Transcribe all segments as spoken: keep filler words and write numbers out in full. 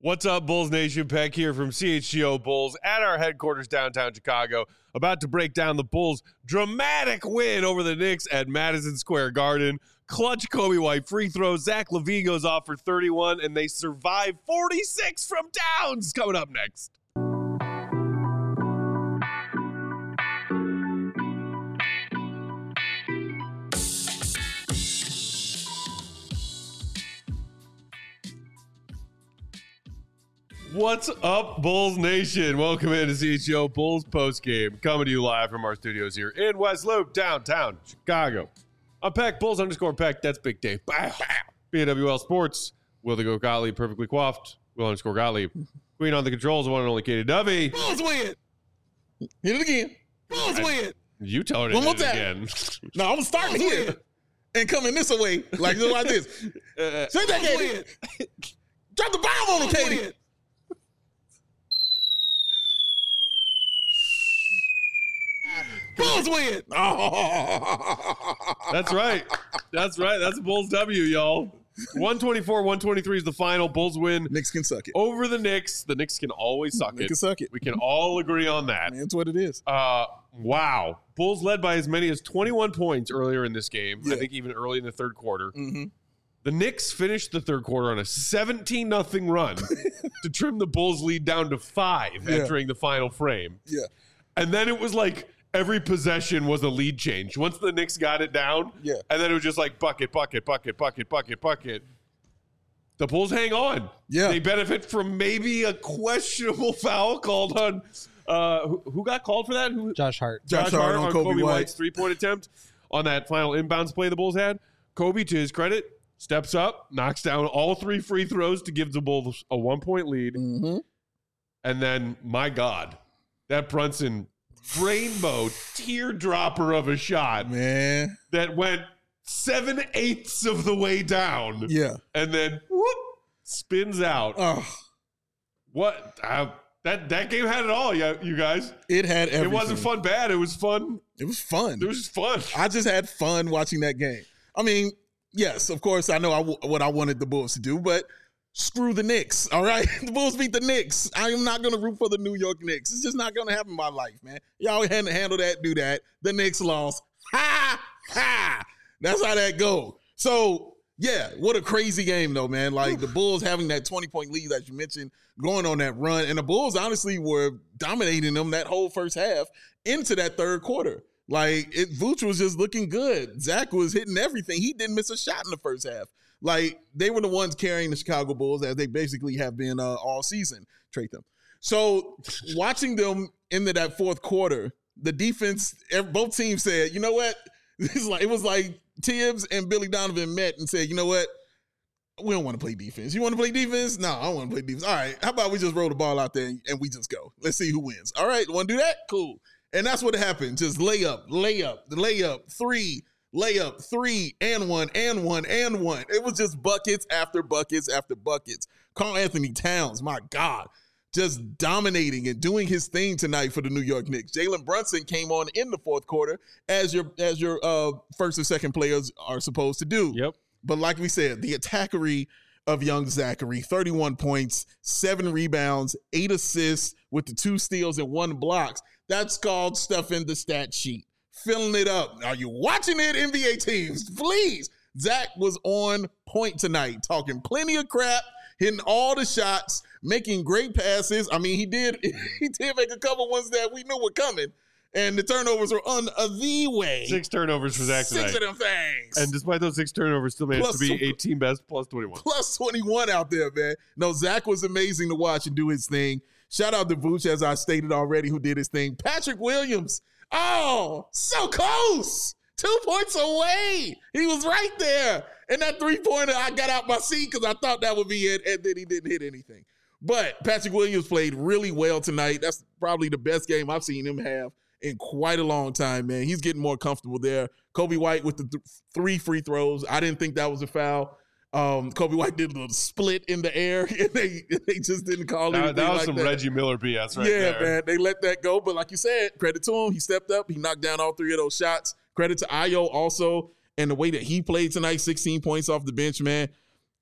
What's up, Bulls Nation? Peck here from C H G O Bulls at our headquarters downtown Chicago, about to break down the Bulls' dramatic win over the Knicks at Madison Square Garden. Clutch Coby White free throws. Zach LaVine goes off for thirty-one, and they survive forty-six from Downs. Coming up next. What's up, Bulls Nation? Welcome into C H G O Bulls postgame. Coming to you live from our studios here in West Loop, downtown Chicago. I'm Peck, Bulls underscore Peck. That's Big Dave. Bow, bow. B N W L Sports. Will the Go Gottlieb, perfectly coiffed. Will underscore Gottlieb. Queen on the controls, one and only Katie Dovey. Bulls win. Hit it again. Bulls I, win. You tell her to One hit more it time. again. No, I'm starting here and coming this away like, like this. Uh, Say that, Katie. Drop the bomb on him, Katie. Bulls win. Oh. That's right. That's right. That's a Bulls W, y'all. one twenty-four one twenty-three is the final. Bulls win. Knicks can suck it. Over the Knicks. The Knicks can always suck They it. can suck it. We can all agree on that. Man, that's what it is. Uh, wow. Bulls led by as many as twenty-one points earlier in this game. Yeah. I think even early in the third quarter. Mm-hmm. The Knicks finished the third quarter on a seventeen nothing run to trim the Bulls' lead down to five Yeah. entering the final frame. Yeah. And then it was like every possession was a lead change. Once the Knicks got it down, Yeah. and then it was just like bucket, bucket, bucket, bucket, bucket, bucket. The Bulls hang on. Yeah. They benefit from maybe a questionable foul called on uh, who, who got called for that? Who, Josh Hart. Josh, Josh Hart Hart on on Coby Coby White. White's three-point attempt on that final inbounds play the Bulls had. Kobe, to his credit, steps up, knocks down all three free throws to give the Bulls a one-point lead. Mm-hmm. And then, my God, that Brunson rainbow teardropper of a shot Man. that went seven-eighths of the way down. Yeah. And then, whoop, spins out. Oh, What? Uh, that, that game had it all, you, you guys. it had everything. It wasn't fun bad. It was fun. It was fun. It was just fun. I just had fun watching that game. I mean, yes, of course, I know I w- what I wanted the Bulls to do, but screw the Knicks, all right? The Bulls beat the Knicks. I am not going to root for the New York Knicks. It's just not going to happen in my life, man. Y'all had to handle that, do that. The Knicks lost. Ha! Ha! That's how that go. So, yeah, what a crazy game, though, man. Like, the Bulls having that twenty-point lead, as you mentioned, going on that run. And the Bulls, honestly, were dominating them that whole first half into that third quarter. Like, it, Vooch was just looking good. Zach was hitting everything. He didn't miss a shot in the first half. Like, they were the ones carrying the Chicago Bulls, as they basically have been uh, all season, trade them. So, watching them into that fourth quarter, the defense, both teams said, you know what? It's like, it was like Tibbs and Billy Donovan met and said, you know what? We don't want to play defense. You want to play defense? No, I don't want to play defense. All right, how about we just roll the ball out there and we just go? Let's see who wins. All right, want to do that? Cool. And that's what happened. Just layup, layup, layup, three, layup, three, and one, and one, and one. It was just buckets after buckets after buckets. Karl Anthony Towns, my God, just dominating and doing his thing tonight for the New York Knicks. Jalen Brunson came on in the fourth quarter, as your as your uh, first and second players are supposed to do. Yep. But like we said, the attackery of young Zachary, thirty-one points, seven rebounds, eight assists with the two steals and one blocks. That's called stuff in the stat sheet. Filling it up. Are you watching it, N B A teams? Please. Zach was on point tonight, talking plenty of crap, hitting all the shots, making great passes. I mean, he did he did make a couple ones that we knew were coming. And the turnovers were on uh, the way. Six turnovers for Zach Six tonight. of them things. And despite those six turnovers, still managed Plus to be some- eighteen best plus twenty-one. Plus twenty-one out there, man. No, Zach was amazing to watch and do his thing. Shout out to Vooch, as I stated already, who did his thing. Patrick Williams. Oh, so close. Two points away. He was right there. And that three-pointer, I got out my seat because I thought that would be it, and then he didn't hit anything. But Patrick Williams played really well tonight. That's probably the best game I've seen him have in quite a long time, man. He's getting more comfortable there. Coby White with the th- three free throws. I didn't think that was a foul. Um, Coby White did a little split in the air, and they, they just didn't call it. That, that was like some that. Reggie Miller B S right yeah, there. man. They let that go. But like you said, credit to him. He stepped up. He knocked down all three of those shots. Credit to Ayo also, and the way that he played tonight, sixteen points off the bench, man.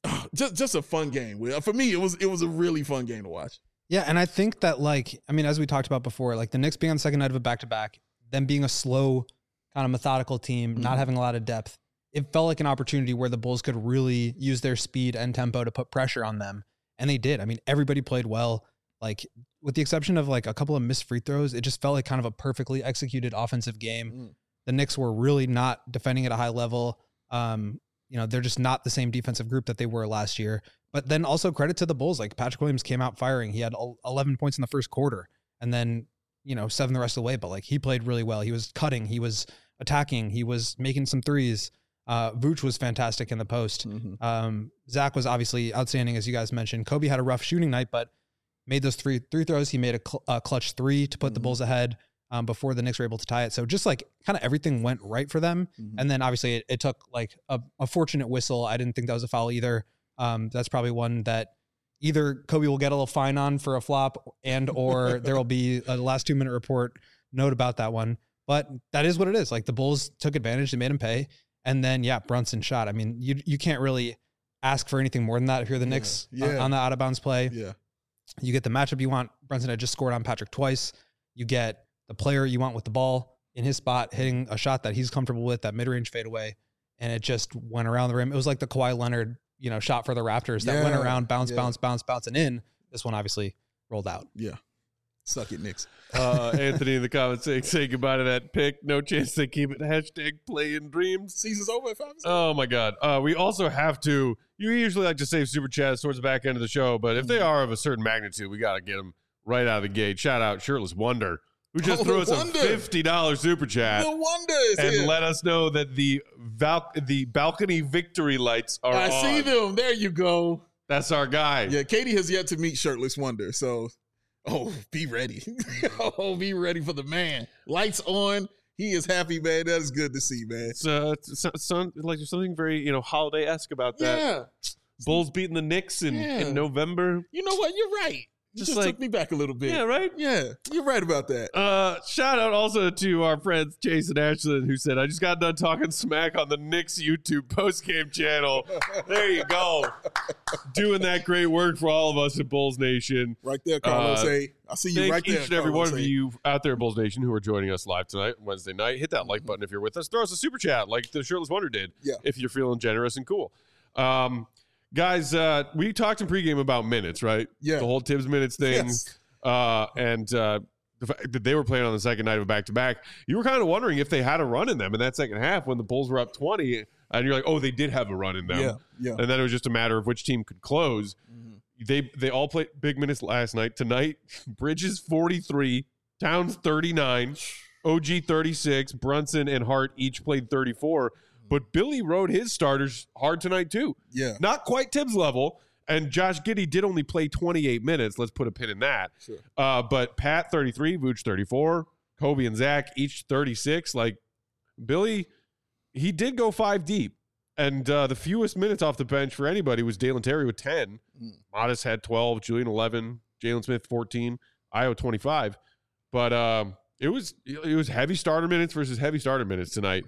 just just a fun game. For me, it was it was a really fun game to watch. Yeah, and I think that, like, I mean, as we talked about before, like the Knicks being on the second night of a back-to-back, them being a slow, kind of methodical team, mm-hmm. not having a lot of depth, it felt like an opportunity where the Bulls could really use their speed and tempo to put pressure on them, and they did. I mean, everybody played well. Like, with the exception of like a couple of missed free throws, it just felt like kind of a perfectly executed offensive game. Mm. The Knicks were really not defending at a high level. Um, you know, they're just not the same defensive group that they were last year. But then also credit to the Bulls. Like Patrick Williams came out firing. He had eleven points in the first quarter and then, you know, seven the rest of the way. But like he played really well. He was cutting. He was attacking. He was making some threes. Uh, Vooch was fantastic in the post. Mm-hmm. Um, Zach was obviously outstanding, as you guys mentioned. Kobe had a rough shooting night, but made those three three throws. He made a, cl- a clutch three to put mm-hmm. the Bulls ahead um, before the Knicks were able to tie it. So just like kind of everything went right for them. Mm-hmm. And then obviously it, it took like a, a fortunate whistle. I didn't think that was a foul either. Um, that's probably one that either Kobe will get a little fine on for a flop and or there will be a last two minute report note about that one. But that is what it is. Like the Bulls took advantage. They made him pay. And then, yeah, Brunson shot. I mean, you you can't really ask for anything more than that if you're the Knicks yeah. Yeah. On, on the out of bounds play. Yeah. You get the matchup you want. Brunson had just scored on Patrick twice. You get the player you want with the ball in his spot, hitting a shot that he's comfortable with, that mid-range fadeaway, and it just went around the rim. It was like the Kawhi Leonard, you know, shot for the Raptors that yeah. went around, bounce, yeah. bounce, bounce, bounce, and in. This one obviously rolled out. Yeah. Suck it, Knicks. Uh, Anthony in the comments saying, say goodbye to that pick. No chance they keep it. Hashtag playing dreams. Season's over at five. Oh, my God. Uh, we also have to, you usually like to save super chats towards the back end of the show, but if they are of a certain magnitude, we got to get them right out of the gate. Shout out Shirtless Wonder, who just oh, threw us wonder. a fifty dollars super chat. The wonder is And here. let us know that the val- the balcony victory lights are I on. see them. There you go. That's our guy. Yeah, Katie has yet to meet Shirtless Wonder, so... Oh, be ready. oh, be ready for the man. Lights on. He is happy, man. That is good to see, man. It's, uh, it's, it's, like there's something very, you know, holiday-esque about that. Yeah. Bulls beating the Knicks in, yeah. in November. You know what? You're right. You just, just like, took me back a little bit. Yeah, right? Yeah, you're right about that. Uh, shout out also to our friends Jason Ashland, who said, I just got done talking smack on the Knicks YouTube postgame channel. There you go. Doing that great work for all of us at Bulls Nation. Right there, Carlos. Uh, hey, I see you right there, each and every Carlos one of you out there at Bulls Nation who are joining us live tonight, Wednesday night. Hit that like button if you're with us. Throw us a super chat like the Shirtless Wonder did yeah. if you're feeling generous and cool. Um, guys, uh, we talked in pregame about minutes, right? Yeah. The whole Tibbs minutes thing. Yes. Uh, and uh, the fact that they were playing on the second night of a back-to-back, you were kind of wondering if they had a run in them in that second half when the Bulls were up twenty, and you're like, oh, they did have a run in them. Yeah, yeah. And then it was just a matter of which team could close. Mm-hmm. They they all played big minutes last night. Tonight, Bridges forty-three, Towns thirty-nine, O G thirty-six, Brunson and Hart each played thirty-four. But Billy rode his starters hard tonight too. Yeah. Not quite Tibbs level. And Josh Giddey did only play twenty-eight minutes. Let's put a pin in that. Sure. Uh, but Pat, thirty-three, Vooch, thirty-four, Kobe and Zach, each thirty-six. Like, Billy, he did go five deep. And uh, the fewest minutes off the bench for anybody was Dalen Terry with ten. Mm. Modest had twelve, Julian eleven, Jalen Smith fourteen, Io twenty-five. But um, it was it was heavy starter minutes versus heavy starter minutes tonight.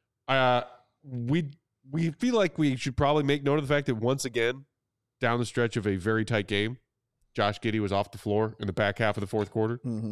Uh, we we feel like we should probably make note of the fact that once again, down the stretch of a very tight game, Josh Giddey was off the floor in the back half of the fourth quarter. Mm-hmm.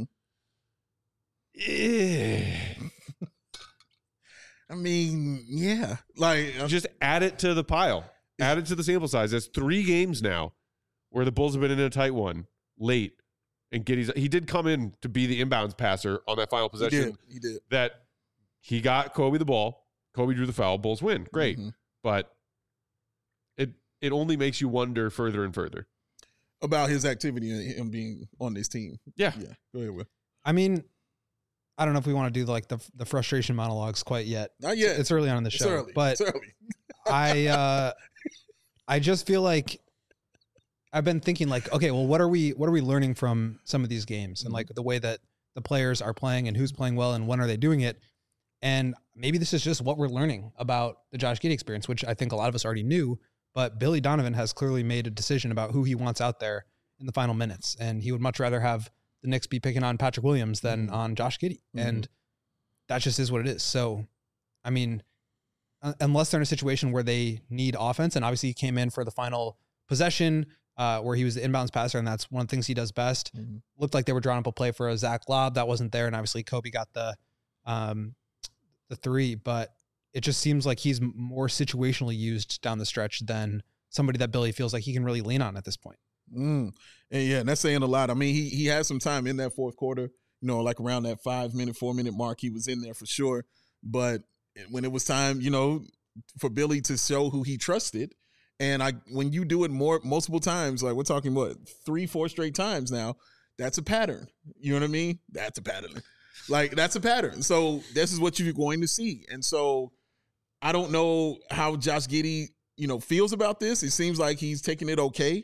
Yeah. I mean, yeah. Like, I'm, just add it to the pile. Add it to the sample size. That's three games now where the Bulls have been in a tight one late. And Giddey's, he did come in to be the inbounds passer on that final possession. He did. He did. That he got Kobe the ball. Kobe drew the foul. Bulls win. Great. Mm-hmm. But it it only makes you wonder further and further about his activity and him being on this team. Yeah. Yeah. Go ahead, Will. I mean, I don't know if we want to do like the the frustration monologues quite yet. Not yet. It's, it's early on in the it's show. Early. But it's early. I uh, I just feel like I've been thinking like, okay, well, what are we what are we learning from some of these games and like the way that the players are playing and who's playing well and when are they doing it? And maybe this is just what we're learning about the Josh Giddey experience, which I think a lot of us already knew. But Billy Donovan has clearly made a decision about who he wants out there in the final minutes. And he would much rather have the Knicks be picking on Patrick Williams than mm-hmm. on Josh Giddey. Mm-hmm. And that just is what it is. So, I mean, uh, unless they're in a situation where they need offense. And obviously he came in for the final possession uh, where he was the inbounds passer, and that's one of the things he does best. Mm-hmm. Looked like they were drawing up a play for a Zach lob that wasn't there, and obviously Kobe got the um, the three, but it just seems like he's more situationally used down the stretch than somebody that Billy feels like he can really lean on at this point. Mm. And yeah, and that's saying a lot. I mean, he he had some time in that fourth quarter, you know, like around that five minute, four minute mark, he was in there for sure. But when it was time, you know, for Billy to show who he trusted, and I when you do it more multiple times, like we're talking what three, four straight times now, that's a pattern. You know what I mean? That's a pattern. Like that's a pattern. So this is what you're going to see. And so I don't know how Josh Giddey, you know, feels about this. It seems like he's taking it okay.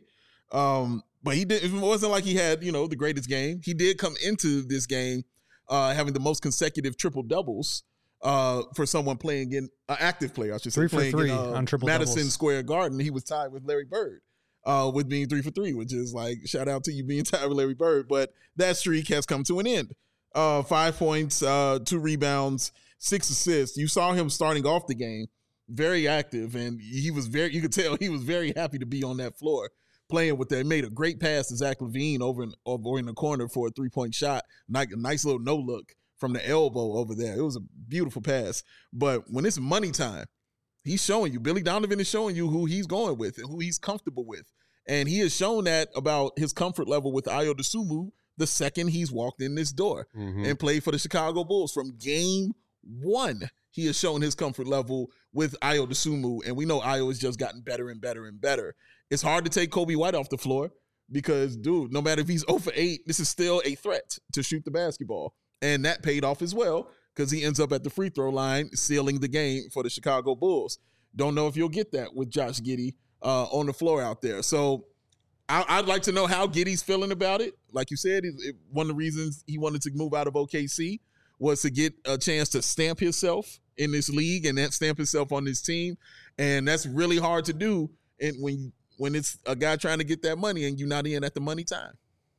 Um, but he did, it wasn't like he had, you know, the greatest game. He did come into this game uh, having the most consecutive triple doubles uh, for someone playing in an uh, active player, I should say. Three for playing three in, uh, on triple Madison doubles. Square Garden. He was tied with Larry Bird uh, with being three for three, which is like, shout out to you being tied with Larry Bird. But that streak has come to an end. Uh, five points, uh, two rebounds, six assists. You saw him starting off the game, very active, and he was very, you could tell he was very happy to be on that floor playing with that. He made a great pass to Zach LaVine over in, over in the corner for a three-point shot. Nice, a nice little no-look from the elbow over there. It was a beautiful pass. But when it's money time, he's showing you, Billy Donovan is showing you who he's going with and who he's comfortable with. And he has shown that about his comfort level with Ayo Dosunmu the second he's walked in this door mm-hmm. and played for the Chicago Bulls. From game one, he has shown his comfort level with Ayo Dosunmu, and we know Ayo has just gotten better and better and better. It's hard to take Kobe White off the floor because, dude, no matter if he's zero for eight, this is still a threat to shoot the basketball. And that paid off as well because he ends up at the free throw line sealing the game for the Chicago Bulls. Don't know if you'll get that with Josh Giddey uh, on the floor out there. So I, I'd like to know how Giddey's feeling about it. Like you said, it, it, one of the reasons he wanted to move out of O K C was to get a chance to stamp himself in this league and that stamp himself on this team. And that's really hard to do and when when it's a guy trying to get that money and you're not in at the money time.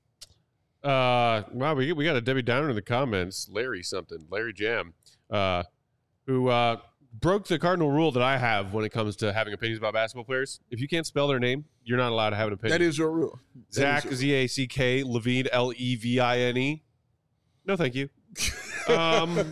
Uh, wow, we, we got a Debbie Downer in the comments, Larry something, Larry Jam, uh, who uh, broke the cardinal rule that I have when it comes to having opinions about basketball players. If you can't spell their name, you're not allowed to have an opinion. That is your rule. Zach, Z A C K, Levine, L E V I N E. No, thank you. um,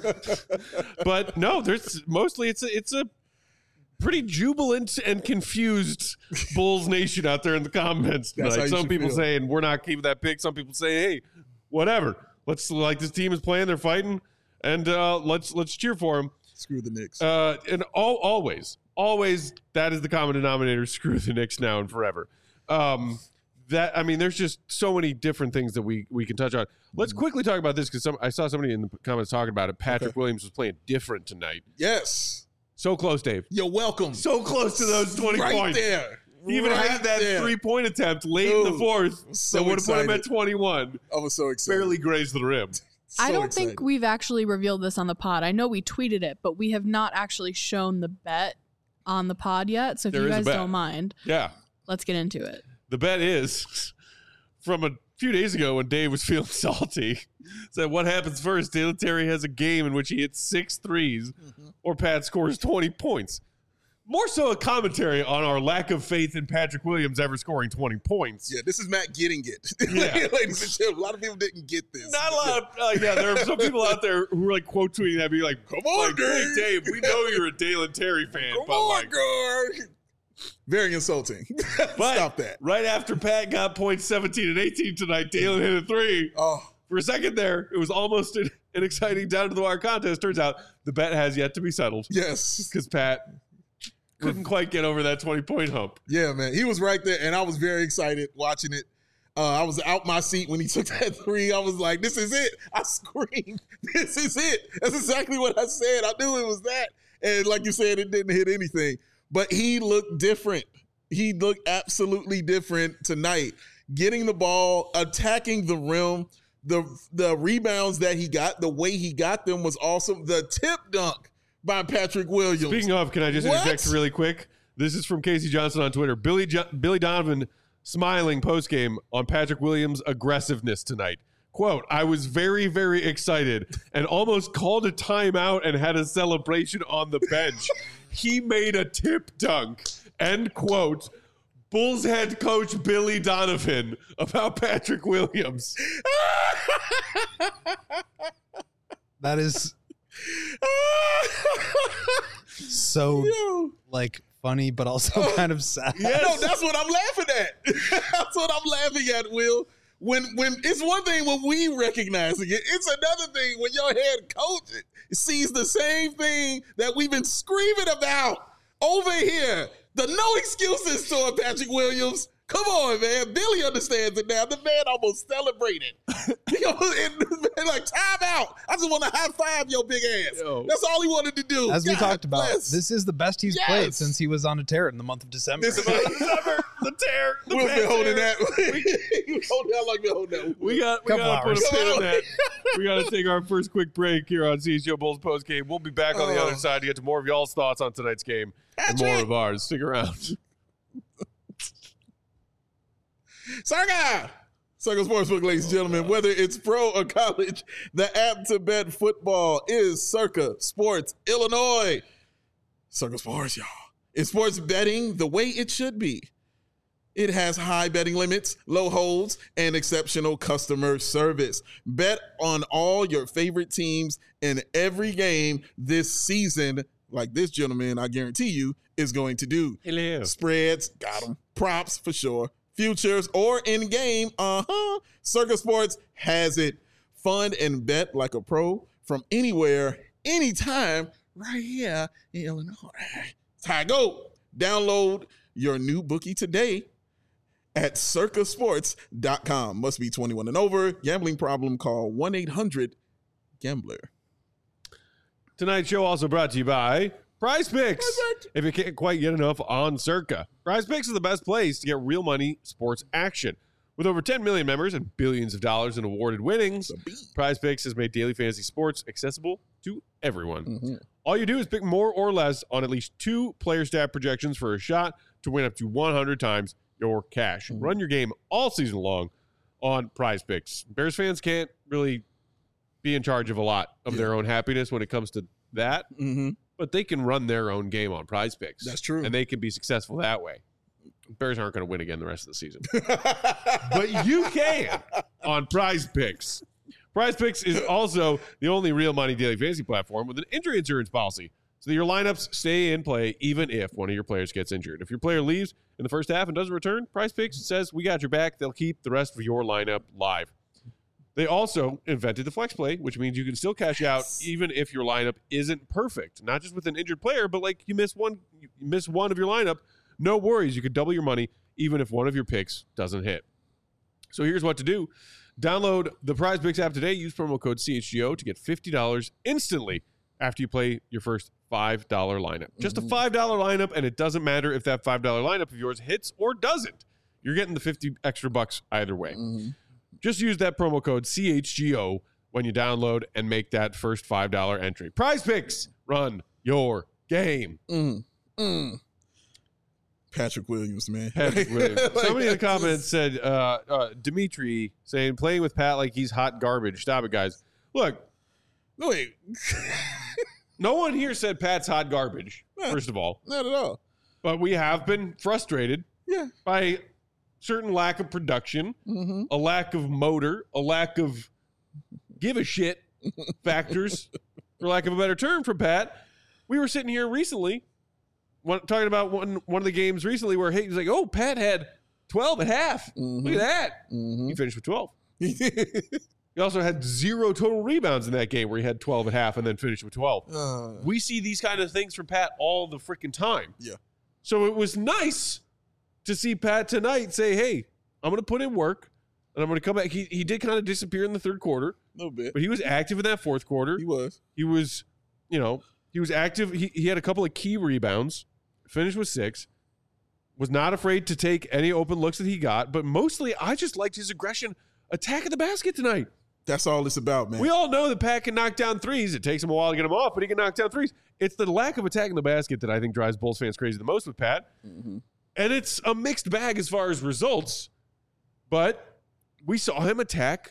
but no, there's mostly it's a, it's a pretty jubilant and confused Bulls Nation out there in the comments tonight. Some people feel. saying we're not keeping that pick. Some people saying, hey, whatever. Let's like this team is playing, they're fighting, and uh, let's let's cheer for them. Screw the Knicks. Uh, and all, always, always that is the common denominator. Screw the Knicks now and forever. Um, that I mean, there's just so many different things that we we can touch on. Let's quickly talk about this because I saw somebody in the comments talking about it. Patrick okay. Williams was playing different tonight. Yes. So close, Dave. You're welcome. So close to those twenty right points. There. He even right had that there. three-point attempt late Dude, in the fourth so that would have excited. put him at twenty-one. I was so excited. Barely grazed the rim. So I don't excited. think we've actually revealed this on the pod. I know we tweeted it, but we have not actually shown the bet on the pod yet. So if there you is guys a bet. don't mind, yeah, let's get into it. The bet is from a few days ago when Dave was feeling salty. Said, what happens first? Dalen Terry has a game in which he hits six threes mm-hmm. or Pat scores twenty points. More so a commentary on our lack of faith in Patrick Williams ever scoring twenty points. Yeah, this is Matt getting it. Yeah. Ladies and gentlemen, a lot of people didn't get this. Not a lot of, uh, yeah, there are some people out there who are like quote tweeting that, be like, come on, like, Dave. Hey, Dave, we know you're a Dalen Terry fan. Come but on, like, guard. Very insulting. But Stop that. Right after Pat got points seventeen and eighteen tonight, Dalen hit a three. Oh. For a second there, it was almost an, an exciting down-to-the-wire contest. Turns out the bet has yet to be settled. Yes. Because Pat couldn't quite get over that twenty-point hump. Yeah, man. He was right there, and I was very excited watching it. Uh, I was out my seat when he took that three. I was like, this is it. I screamed, this is it. That's exactly what I said. I knew it was that. And like you said, it didn't hit anything. But he looked different. He looked absolutely different tonight. Getting the ball, attacking the rim, the, the rebounds that he got, the way he got them was awesome. The tip dunk by Patrick Williams. Speaking of, can I just What? interject really quick? This is from Casey Johnson on Twitter. Billy jo- Billy Donovan smiling postgame on Patrick Williams' aggressiveness tonight. quote, I was very, very excited and almost called a timeout and had a celebration on the bench. He made a tip dunk, end quote. Bulls head coach Billy Donovan about Patrick Williams. That is so Yo. like funny, but also kind of sad. Yes. No, that's what I'm laughing at. That's what I'm laughing at, Will. When when it's one thing when we recognizing it, it's another thing when your head coach sees the same thing that we've been screaming about over here. The no excuses toward Patrick Williams. Come on, man. Billy understands it now. The man almost celebrated. He almost, and, like, time out. I just want to high five your big ass. Yo. That's all he wanted to do. As we God talked about, bless. this is the best he's Yes. played since he was on a tear in the month of December. This is the tear. The We've bad been holding tear. that. You holding that like been holding that. We got we Couple got to put a hours. pin in that. We got to take our first quick break here on C H G O Bulls post game. We'll be back on the Oh. other side to get to more of y'all's thoughts on tonight's game and more Patrick. of ours. Stick around. Circa! Circa Sportsbook, ladies and gentlemen. Whether it's pro or college, the app to bet football is Circa Sports Illinois. Circa Sports, y'all. It's sports betting the way it should be. It has high betting limits, low holds, and exceptional customer service. Bet on all your favorite teams in every game this season, like this gentleman, I guarantee you, is going to do. Hello. Spreads, got them. Props for sure. Futures or in game, uh-huh. Circa Sports has it. Fund and bet like a pro from anywhere, anytime, right here in Illinois. That's how I go. Download your new bookie today at circa sports dot com. Must be twenty-one and over. Gambling problem, call one eight hundred gambler. Tonight's show also brought to you by Prize Picks. Prize Picks. If you can't quite get enough on Circa, Prize Picks is the best place to get real money sports action. With over ten million members and billions of dollars in awarded winnings, Prize Picks has made daily fantasy sports accessible to everyone. Mm-hmm. All you do is pick more or less on at least two player stat projections for a shot to win up to one hundred times your cash. Mm-hmm. Run your game all season long on Prize Picks. Bears fans can't really be in charge of a lot of Yeah. their own happiness when it comes to that, Mm-hmm. but they can run their own game on Prize Picks. That's true. And they can be successful that way. Bears aren't going to win again the rest of the season. But you can on Prize Picks. Prize Picks is also the only real money daily fantasy platform with an injury insurance policy, so that your lineups stay in play even if one of your players gets injured. If your player leaves in the first half and doesn't return, Prize Picks says, we got your back. They'll keep the rest of your lineup live. They also invented the flex play, which means you can still cash out even if your lineup isn't perfect. Not just with an injured player, but like you miss one, you miss one of your lineup. No worries. You could double your money even if one of your picks doesn't hit. So here's what to do. Download the Prize Picks app today. Use promo code C H G O to get fifty dollars instantly after you play your first five dollar lineup. Just a five dollar lineup, and it doesn't matter if that five dollar lineup of yours hits or doesn't. You're getting the fifty extra bucks either way. Mm-hmm. Just use that promo code C H G O when you download and make that first five dollar entry. Prize Picks, run your game. Mm. Mm. Patrick Williams, man. Patrick Williams. Like, Somebody in the that's comments said, uh, uh, Dimitri saying, playing with Pat like he's hot garbage. Stop it, guys. Look, No, wait. no one here said Pat's hot garbage, No. first of all. Not at all. But we have been frustrated Yeah. by certain lack of production, Mm-hmm. a lack of motor, a lack of give a shit factors, for lack of a better term, from Pat. We were sitting here recently one, talking about one one of the games recently where he was like, oh, Pat had twelve at half. Mhm. Look at that. Mm-hmm. He finished with twelve. He also had zero total rebounds in that game where he had twelve at half and then finished with twelve. uh, We see these kind of things from Pat all the freaking time. Yeah. So it was nice to see Pat tonight say, hey, I'm going to put in work and I'm going to come back. He, he did kind of disappear in the third quarter, a little bit. but he was active in that fourth quarter. He was. He was, you know, he was active. He, he had a couple of key rebounds, finished with six, was not afraid to take any open looks that he got. But mostly, I just liked his aggression attacking the basket tonight. That's all it's about, man. We all know that Pat can knock down threes. It takes him a while to get them off, but he can knock down threes. It's the lack of attacking the basket that I think drives Bulls fans crazy the most with Pat. Mm-hmm. And it's a mixed bag as far as results, but we saw him attack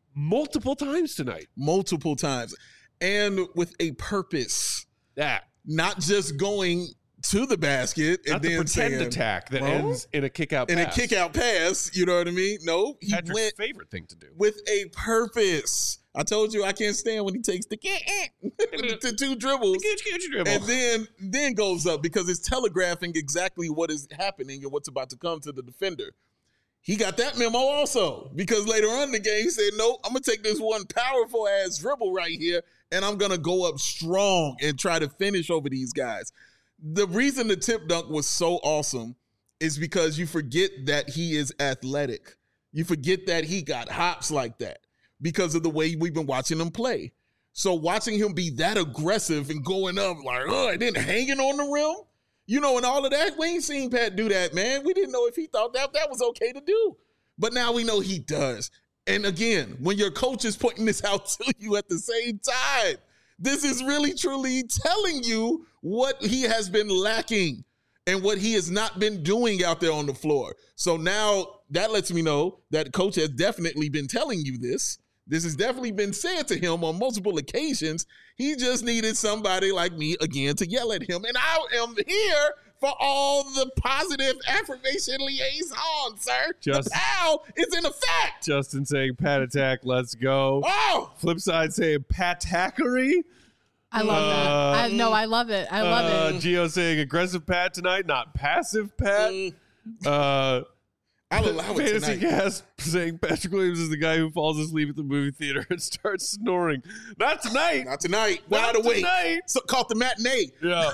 multiple times tonight. multiple times, and with a purpose. That. Not just going to the basket and Not the then pretend saying, attack that well, ends in a kick out in pass. a kick out pass. You know what I mean? No, he Patrick's went favorite thing to do. with a purpose. I told you I can't stand when he takes the to two dribbles and then then goes up because it's telegraphing exactly what is happening and what's about to come to the defender. He got that memo also because later on in the game he said, nope, I'm going to take this one powerful ass dribble right here and I'm going to go up strong and try to finish over these guys. The reason the tip dunk was so awesome is because you forget that he is athletic. You forget that he got hops like that because of the way we've been watching him play. So watching him be that aggressive and going up like, oh, and then hanging on the rim, you know, and all of that, we ain't seen Pat do that, man. We didn't know if he thought that that was okay to do. But now we know he does. And again, when your coach is pointing this out to you at the same time, this is really, truly telling you what he has been lacking and what he has not been doing out there on the floor. So now that lets me know that coach has definitely been telling you this. This has definitely been said to him on multiple occasions. He just needed somebody like me again to yell at him. And I am here for all the positive affirmation liaison, sir. Just, the pal is in effect. Justin saying Pat attack, let's go. Oh, Flip side saying Pat-tackery. I love Uh, that. I, no, I love it. I love uh, it. Gio saying aggressive Pat tonight, not passive Pat. Mm. Uh, I'll allow it Fantasy tonight. Gas saying Patrick Williams is the guy who falls asleep at the movie theater and starts snoring. Not tonight. Not tonight. Not Wide awake. tonight. So, caught the matinee. Yeah.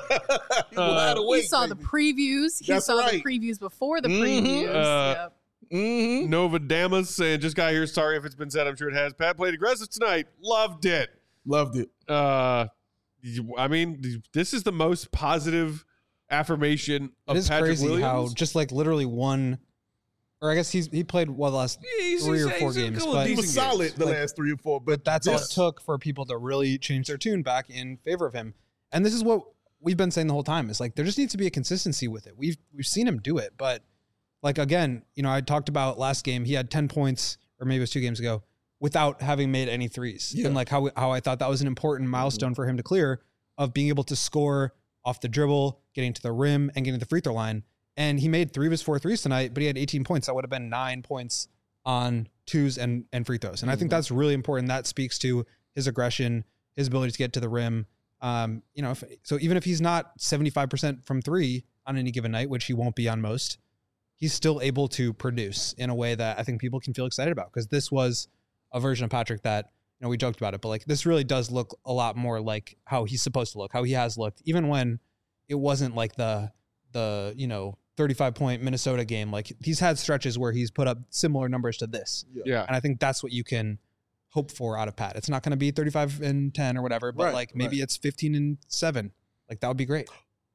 Wide awake. He saw the baby. previews. He That's saw right. the previews before the Mhm. previews. Uh, Yep. Mm-hmm. Nova Damas saying just got here. Sorry if it's been said. I'm sure it has. Pat played aggressive tonight. Loved it. Loved it. Uh, I mean, this is the most positive affirmation of It is Patrick crazy Williams. how just like literally one, or I guess he's he played well the last He's- three or he's- four he's a games, couple of but He was decent solid games. the Like, last three or four, but but that's all it this- took for people to really change their tune back in favor of him. And this is what we've been saying the whole time. Is like there just needs to be a consistency with it. We've we've seen him do it, but like again, you know, I talked about last game. He had ten points, or maybe it was two games ago, without having made any threes. Yeah. And like how how I thought that was an important milestone for him to clear of being able to score off the dribble, getting to the rim, and getting to the free throw line. And he made three of his four threes tonight, but he had eighteen points. That would have been nine points on twos and, and free throws. And I think that's really important. That speaks to his aggression, his ability to get to the rim. Um, you know, if, so even if he's not seventy-five percent from three on any given night, which he won't be on most, he's still able to produce in a way that I think people can feel excited about. Because this was a version of Patrick that, you know, we joked about it, but like this really does look a lot more like how he's supposed to look, how he has looked, even when it wasn't like the, the, you know, thirty-five point Minnesota game. Like he's had stretches where he's put up similar numbers to this. Yeah. And I think that's what you can hope for out of Pat. It's not going to be thirty-five and ten or whatever, but Right, like maybe right. it's fifteen and seven. Like that would be great.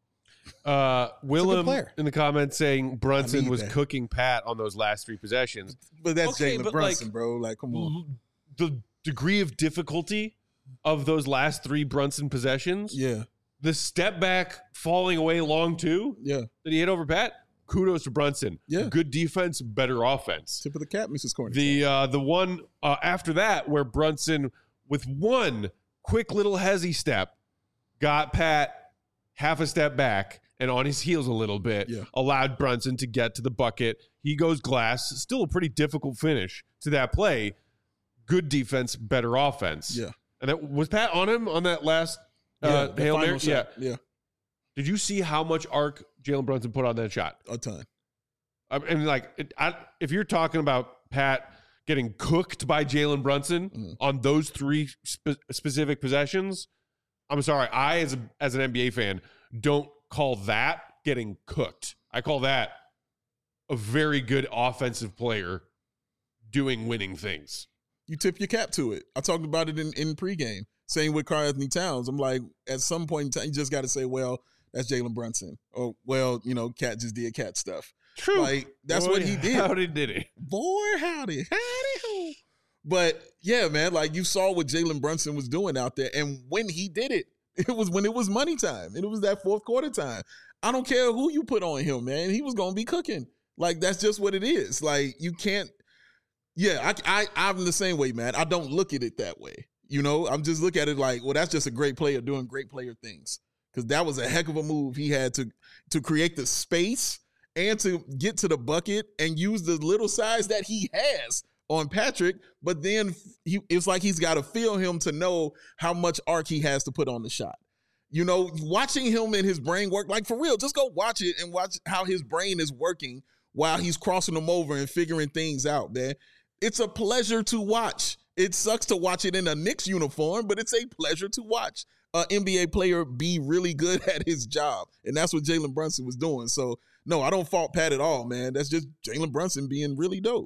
Uh, Willem player. in the comments saying Brunson need was that. cooking Pat on those last three possessions. But that's Okay, Jalen but, Brunson, like, bro. Like, come on. L- The degree of difficulty of those last three Brunson possessions, Yeah, the step back falling away long two yeah. that he hit over Pat, kudos to Brunson. Yeah. Good defense, better offense. Tip of the cap, Missus Corner. The uh, the one uh, after that where Brunson with one quick little hezzy step got Pat half a step back and on his heels a little bit, Yeah. allowed Brunson to get to the bucket. He goes glass. Still a pretty difficult finish to that play. Good defense, better offense. Yeah. And that was Pat on him on that last uh, the Hail final Mary? Yeah. shot. Yeah, Did you see how much arc Jalen Brunson put on that shot? a ton. I mean, like, it, I, if you're talking about Pat getting cooked by Jalen Brunson Mhm. on those three spe- specific possessions, I'm sorry. I, as a, as an N B A fan, don't call that getting cooked. I call that a very good offensive player doing winning things. You tip your cap to it. I talked about it in, in pregame. Same with Karl Anthony Towns. I'm like, at some point in time, you just got to say, well, that's Jalen Brunson. Or, well, you know, Cat just did Cat stuff. True. Like, that's Boy, what he did. Howdy did he? Boy, howdy. Howdy ho. But, yeah, man, like, you saw what Jalen Brunson was doing out there. And when he did it, it was when it was money time. And it was that fourth quarter time. I don't care who you put on him, man. He was going to be cooking. Like, that's just what it is. Like, you can't Yeah, I, I, I'm the same way, man. I don't look at it that way. You know, I'm just look at it like, well, that's just a great player doing great player things. Because that was a heck of a move he had to to create the space and to get to the bucket and use the little size that he has on Patrick. But then he, it's like he's got to feel him to know how much arc he has to put on the shot. You know, watching him and his brain work, like for real, just go watch it and watch how his brain is working while he's crossing them over and figuring things out, man. It's a pleasure to watch. It sucks to watch it in a Knicks uniform, but it's a pleasure to watch an N B A player be really good at his job. And that's what Jalen Brunson was doing. So, no, I don't fault Pat at all, man. That's just Jalen Brunson being really dope.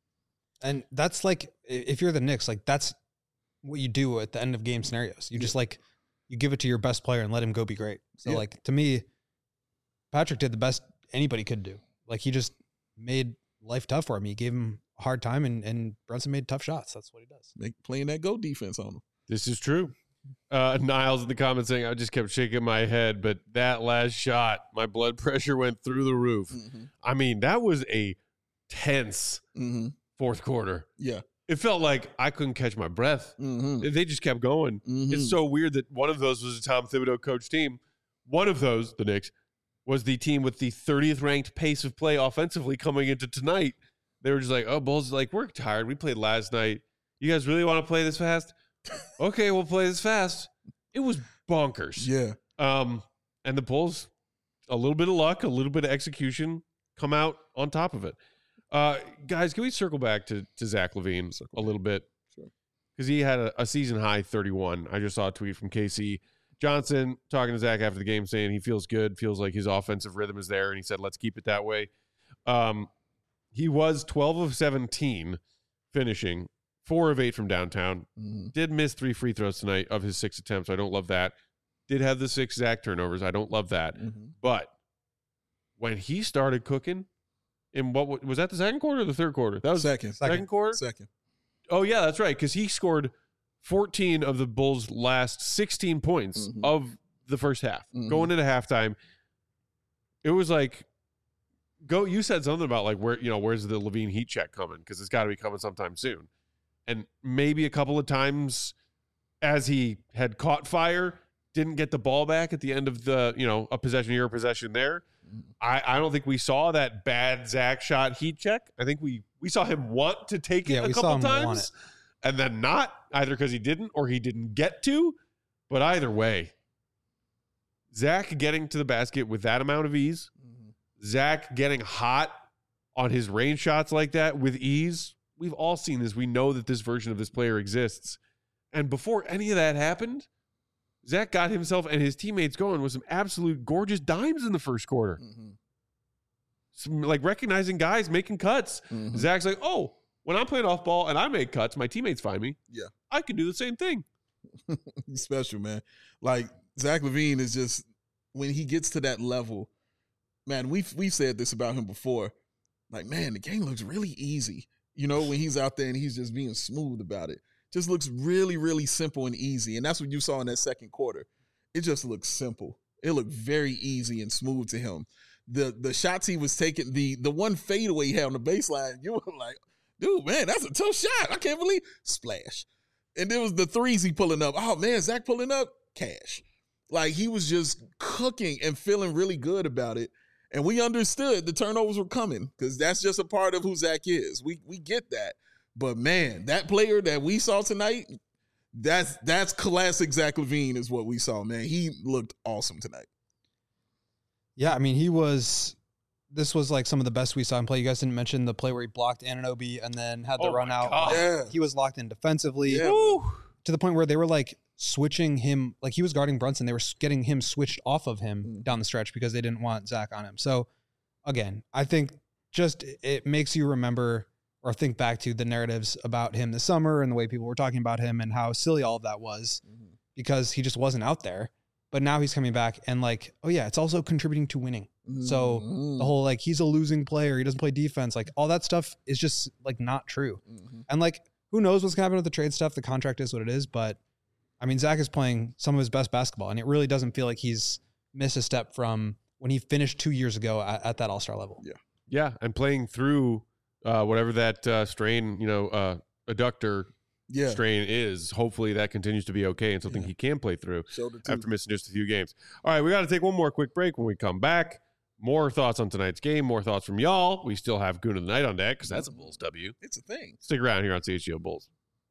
And that's like, if you're the Knicks, like that's what you do at the end of game scenarios. You just like, you give it to your best player and let him go be great. So yeah. like, to me, Patrick did the best anybody could do. Like he just made life tough for him. He gave him a hard time and, and Brunson made tough shots. That's what he does. Make, playing that go defense on him. This is true. Uh, Niles in the comments saying, I just kept shaking my head, but that last shot, my blood pressure went through the roof. Mm-hmm. I mean, that was a tense mm-hmm. fourth quarter. Yeah. It felt like I couldn't catch my breath. Mm-hmm. They just kept going. Mm-hmm. It's so weird that one of those was a Tom Thibodeau coach team. One of those, the Knicks, was the team with the thirtieth ranked pace of play offensively coming into tonight. They were just like, oh, Bulls, like, we're tired. We played last night. You guys really want to play this fast? Okay, we'll play this fast. It was bonkers. Yeah. Um, and the Bulls, a little bit of luck, a little bit of execution, come out on top of it. Uh, guys, can we circle back to, to Zach LaVine a little bit? Sure. Because he had a, a season high thirty-one. I just saw a tweet from K C Johnson talking to Zach after the game saying he feels good, feels like his offensive rhythm is there, and he said, let's keep it that way. Um, he was twelve of seventeen finishing, four of eight from downtown. Mm-hmm. Did miss three free throws tonight of his six attempts. I don't love that. Did have the six Zach turnovers. I don't love that. Mm-hmm. But when he started cooking, in what was that the second quarter or the third quarter? That was second. Second, second quarter? Second. Oh, yeah, that's right, because he scored fourteen of the Bulls' last sixteen points mm-hmm. of the first half. Mm-hmm. Going into halftime, it was like, go. You said something about, like, where, you know, where's the LaVine heat check coming? Because it's got to be coming sometime soon. And maybe a couple of times as he had caught fire, didn't get the ball back at the end of the, you know, a possession here, a possession there. I, I don't think we saw that bad Zach shot heat check. I think we, we saw him want to take it yeah, a we couple saw him times want it. And then not, either because he didn't or he didn't get to. But either way, Zach getting to the basket with that amount of ease, mm-hmm. Zach getting hot on his range shots like that with ease. We've all seen this. We know that this version of this player exists. And before any of that happened, Zach got himself and his teammates going with some absolute gorgeous dimes in the first quarter. Mm-hmm. Some, like, recognizing guys making cuts. Mm-hmm. Zach's like, oh, when I'm playing off ball and I make cuts, my teammates find me. Yeah. I can do the same thing. He's special, man. Like, Zach LaVine is just, when he gets to that level, man, we've, we've said this about him before. Like, man, the game looks really easy. You know, when he's out there and he's just being smooth about it. Just looks really, really simple and easy. And that's what you saw in that second quarter. It just looks simple. It looked very easy and smooth to him. The the shots he was taking, the the one fadeaway he had on the baseline, you were like, dude, man, that's a tough shot. I can't believe splash. And there was the threes he pulling up. Oh, man, Zach pulling up, cash. Like, he was just cooking and feeling really good about it. And we understood the turnovers were coming because that's just a part of who Zach is. We we get that. But, man, that player that we saw tonight, that's that's classic Zach LaVine is what we saw, man. He looked awesome tonight. Yeah, I mean, he was – this was like some of the best we saw him play. You guys didn't mention the play where he blocked Anunoby and then had the oh run out. Yeah. He was locked in defensively Yeah. to the point where they were like switching him. Like, he was guarding Brunson. They were getting him switched off of him mm. down the stretch because they didn't want Zach on him. So, again, I think just it makes you remember – or think back to the narratives about him this summer and the way people were talking about him and how silly all of that was mm-hmm. because he just wasn't out there. But now he's coming back and like, oh yeah, it's also contributing to winning. Mm-hmm. So the whole like, he's a losing player, he doesn't play defense, like all that stuff is just like not true. Mm-hmm. And like, who knows what's gonna happen with the trade stuff? The contract is what it is. But I mean, Zach is playing some of his best basketball and it really doesn't feel like he's missed a step from when he finished two years ago at, at that all-star level. Yeah. Yeah. And playing through uh, whatever that uh, strain, you know, uh, adductor Yeah. strain is. Hopefully that continues to be okay and something Yeah. he can play through Shoulder too. after missing just a few games. All right, we got to take one more quick break. When we come back, more thoughts on tonight's game, more thoughts from y'all. We still have Goon of the Night on deck because that's a Bulls W. It's a thing. Stick around here on C H G O Bulls.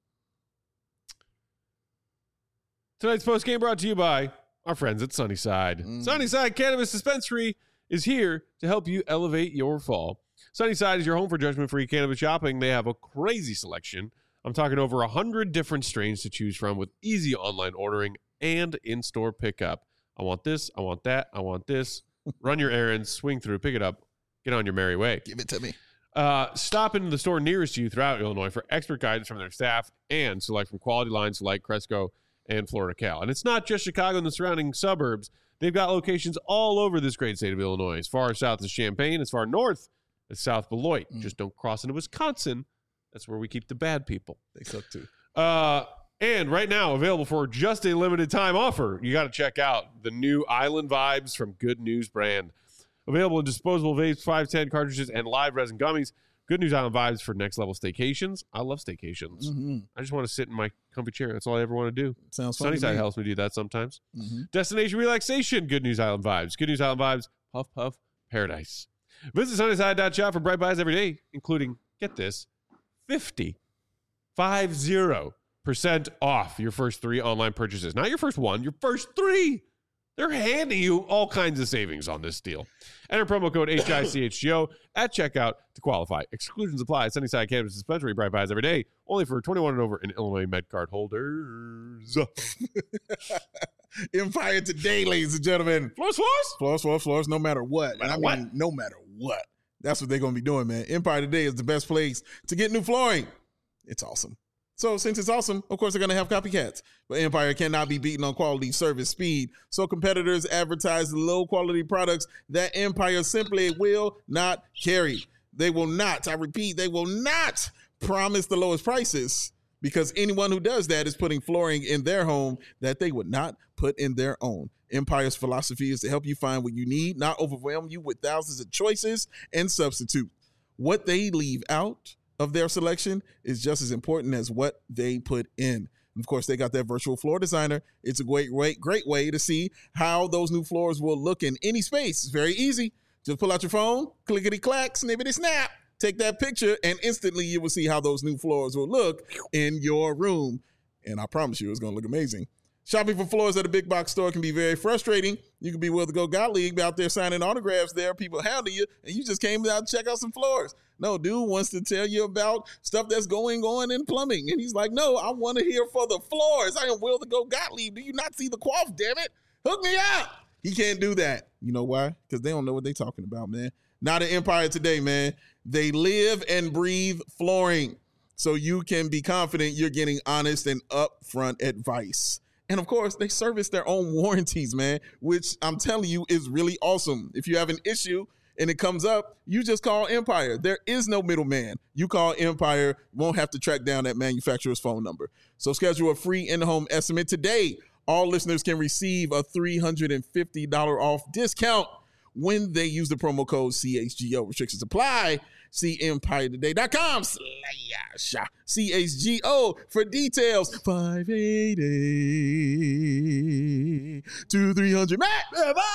Tonight's post game brought to you by our friends at Sunnyside. Mm. Sunnyside Cannabis Dispensary is here to help you elevate your fall. Sunnyside is your home for judgment-free cannabis shopping. They have a crazy selection. I'm talking over one hundred different strains to choose from with easy online ordering and in-store pickup. I want this, I want that, I want this. Run your errands, swing through, pick it up, get on your merry way. Give it to me. Uh, stop into the store nearest you throughout Illinois for expert guidance from their staff and select from quality lines like Cresco and Florida Cal. And it's not just Chicago and the surrounding suburbs. They've got locations all over this great state of Illinois, as far south as Champaign, as far north as South Beloit. Mm. Just don't cross into Wisconsin. That's where we keep the bad people. They suck too. Uh, and right now, available for just a limited time offer, you got to check out the new Island Vibes from Good News brand. Available in disposable vapes, five ten cartridges, and live resin gummies. Good News Island Vibes for next level staycations. I love staycations. Mm-hmm. I just want to sit in my comfy chair. That's all I ever want to do. Sounds fun. to Sunnyside me. helps me do that sometimes. Mm-hmm. Destination relaxation. Good News Island Vibes. Good News Island Vibes. Puff Puff Paradise. Visit Sunnyside dot shop for bright buys every day, including, get this, fifty, five zero percent off your first three online purchases. Not your first one, your first three. They're handing you all kinds of savings on this deal. Enter promo code H I C H G O at checkout to qualify. Exclusions apply. Sunnyside Cannabis Dispensary, bright buys every day, only for twenty-one and over in Illinois MedCard holders. Empire today, ladies and gentlemen. Floors, floors. Floors, floors, floors, no matter what. No matter and I mean, what. no matter what. That's what they're going to be doing, man. Empire today is the best place to get new flooring. It's awesome. So since it's awesome, of course, they're going to have copycats. But Empire cannot be beaten on quality, service, speed. So competitors advertise low-quality products that Empire simply will not carry. They will not, I repeat, they will not promise the lowest prices, because anyone who does that is putting flooring in their home that they would not put in their own. Empire's philosophy is to help you find what you need, not overwhelm you with thousands of choices and substitute. What they leave out of their selection is just as important as what they put in. Of course, they got their virtual floor designer. It's a great way, great way to see how those new floors will look in any space. It's very easy. Just pull out your phone, clickety-clack, snippety-snap, take that picture, and instantly you will see how those new floors will look in your room. And I promise you, it's going to look amazing. Shopping for floors at a big box store can be very frustrating. You can be willing to go God League out there signing autographs there. People handle you, and you just came out to check out some floors. No, dude wants to tell you about stuff that's going on in plumbing. And he's like, no, I want to hear for the floors. I am willing to go God League. Do you not see the quaff, damn it? Hook me up. He can't do that. You know why? Because they don't know what they're talking about, man. Not an Empire today, man. They live and breathe flooring. So you can be confident you're getting honest and upfront advice. And of course, they service their own warranties, man, which I'm telling you is really awesome. If you have an issue and it comes up, you just call Empire. There is no middleman. You call Empire, won't have to track down that manufacturer's phone number. So schedule a free in-home estimate today. All listeners can receive a three hundred fifty dollars off discount when they use the promo code C H G O. Restrictions apply. See empire today dot com slash C H G O for details. five eighty to three hundred Matt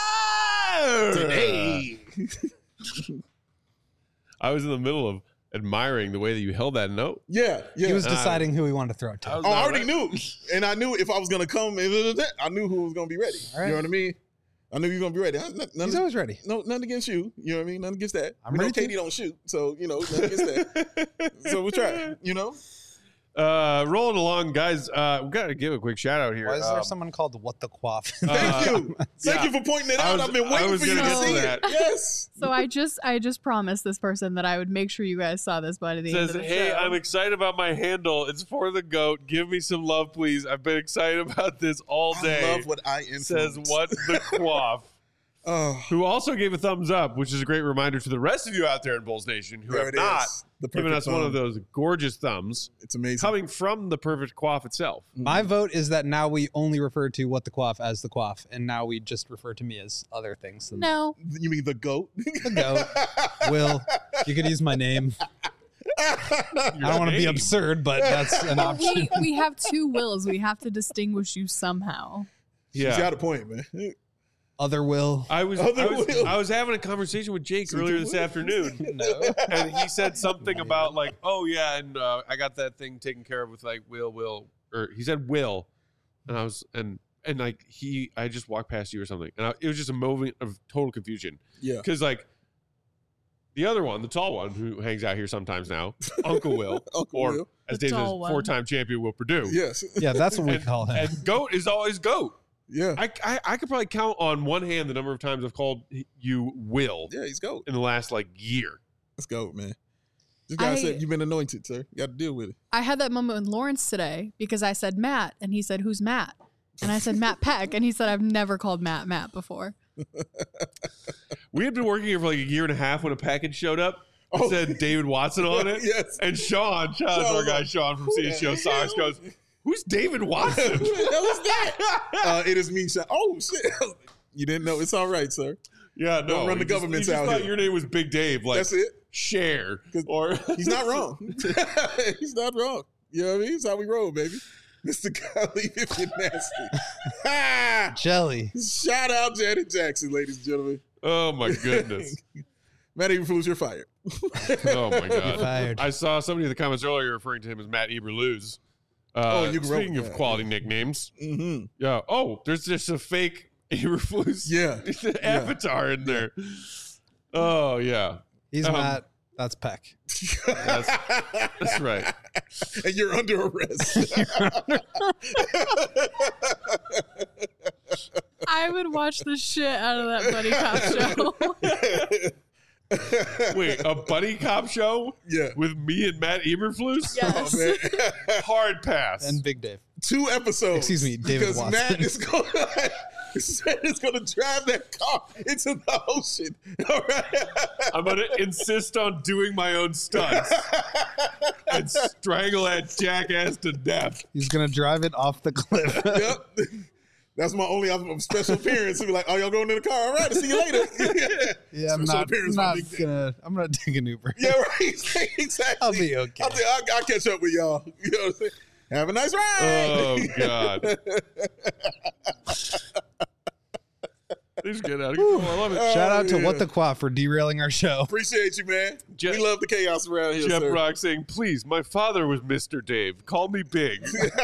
today. I was in the middle of admiring the way that you held that note. Yeah, yeah. He was Uh, deciding who he wanted to throw it to. I was Oh, I not already ready. knew. And I knew if I was going to come, I knew who was going to be ready. All right. You know what I mean? I knew you were going to be ready. I- None, He's always ready. no, nothing against you. You know what I mean? Nothing against that. I'm we know ready to. Katie don't shoot, so, you know, nothing against that. So we'll try, you know? Uh, rolling along, guys. Uh, we got to give a quick shout out here. Why is there Um, someone called What the Quaff? Thank Uh, you. Thank yeah. you for pointing it I out. was- I've been I waiting was for you gonna to get to see that. it. Yes. So I just I just promised this person that I would make sure you guys saw this by the says, end of the hey, show. I'm excited about my handle. It's for the GOAT. Give me some love, please. I've been excited about this all day. I love what I influence. Says, what the quaff. Oh, Who also gave a thumbs up, which is a great reminder to the rest of you out there in Bulls Nation who there have it not is. The given perfect us one thumb. of those gorgeous thumbs It's amazing. coming from the perfect quaff itself. My vote is that now we only refer to What the Quaff as the Quaff, and now we just refer to me as other things. Than No. You mean the goat? The goat. Will, you could use my name. I don't want to be absurd, but that's an option. we, we have two wills. We have to distinguish you somehow. Yeah. She's got a point, man. Other will. I was, Other I was will. I was having a conversation with Jake Secret earlier this will. afternoon, No. and he said something about like, oh yeah, and uh, I got that thing taken care of with like Will, Will, or he said Will, and I was and and like he, I just walked past you or something, and I, it was just a moment of total confusion Yeah. because like the other one, the tall one who hangs out here sometimes now, Uncle Will, Uncle or Will. as The Dave says, tall one. four-time champion Will Purdue. Yes. Yeah, that's what we and, call him. and Goat is always Goat. Yeah. I, I I could probably count on one hand the number of times I've called you Will Yeah, he's goat. in the last like year. Let's go, man. This guy I- said you've been anointed, sir. You got to deal with it. I had that moment with Lawrence today because I said Matt, and he said, "Who's Matt?" And I said Matt Peck, and he said, "I've never called Matt Matt before." We had been working here for like a year and a half when a package showed up. It Oh. said David Watson on it. Yes. And Sean, shout out to our guy Sean from C H G O Stars goes, who's David Watson? Who the hell is that? Uh, it is me. Sean. Oh shit! You didn't know? It's all right, sir. Yeah, no. Don't run the he just- governments he just out thought here. your name was Big Dave. Like, That's it. share. 'Cause Or He's not wrong. He's not wrong. You know what I mean? It's how we roll, baby. Mister Golly, if you're nasty. Ha! Jelly. Shout out Janet Jackson, ladies and gentlemen. Oh my goodness. Matt Eberflus, you're fired. Oh my god. fired. I saw somebody in the comments earlier referring to him as Matt Eberluz. Uh, Oh, you grew up speaking with of that, quality nicknames. Mm-hmm. Yeah. Oh, there's just a fake Eberflus Yeah. avatar in there. Oh yeah. He's Um, Matt. That's Peck. That's, that's right. And you're under arrest. I would watch the shit out of that Buddy Cop show. Wait, a buddy cop show Yeah. with me and Matt Eberflus? Yes. Oh, man. Hard pass. And Big Dave. Two episodes. Excuse me, David because Watson. Matt is going Matt is going to drive that car into the ocean. All right. I'm going to insist on doing my own stunts and strangle that jackass to death. He's gonna drive it off the cliff. Yep. That's my only um, special appearance. He'll be like, "Oh, y'all going in the car? All right, I'll see you later." Yeah, I'm Special not, appearance I'm by not Big Dave. gonna. I'm gonna take an Uber. Yeah, right. Exactly. I'll be okay. I'll, I'll, I'll catch up with y'all. You know what I'm saying? Have a nice ride. Oh, God. Please get out of control. I love it. Shout out to yeah. What the Quaff for derailing our show. Appreciate you, man. Je- we love the chaos around here, Jeff sir. Brock saying, please, my father was Mister Dave. Call me Big.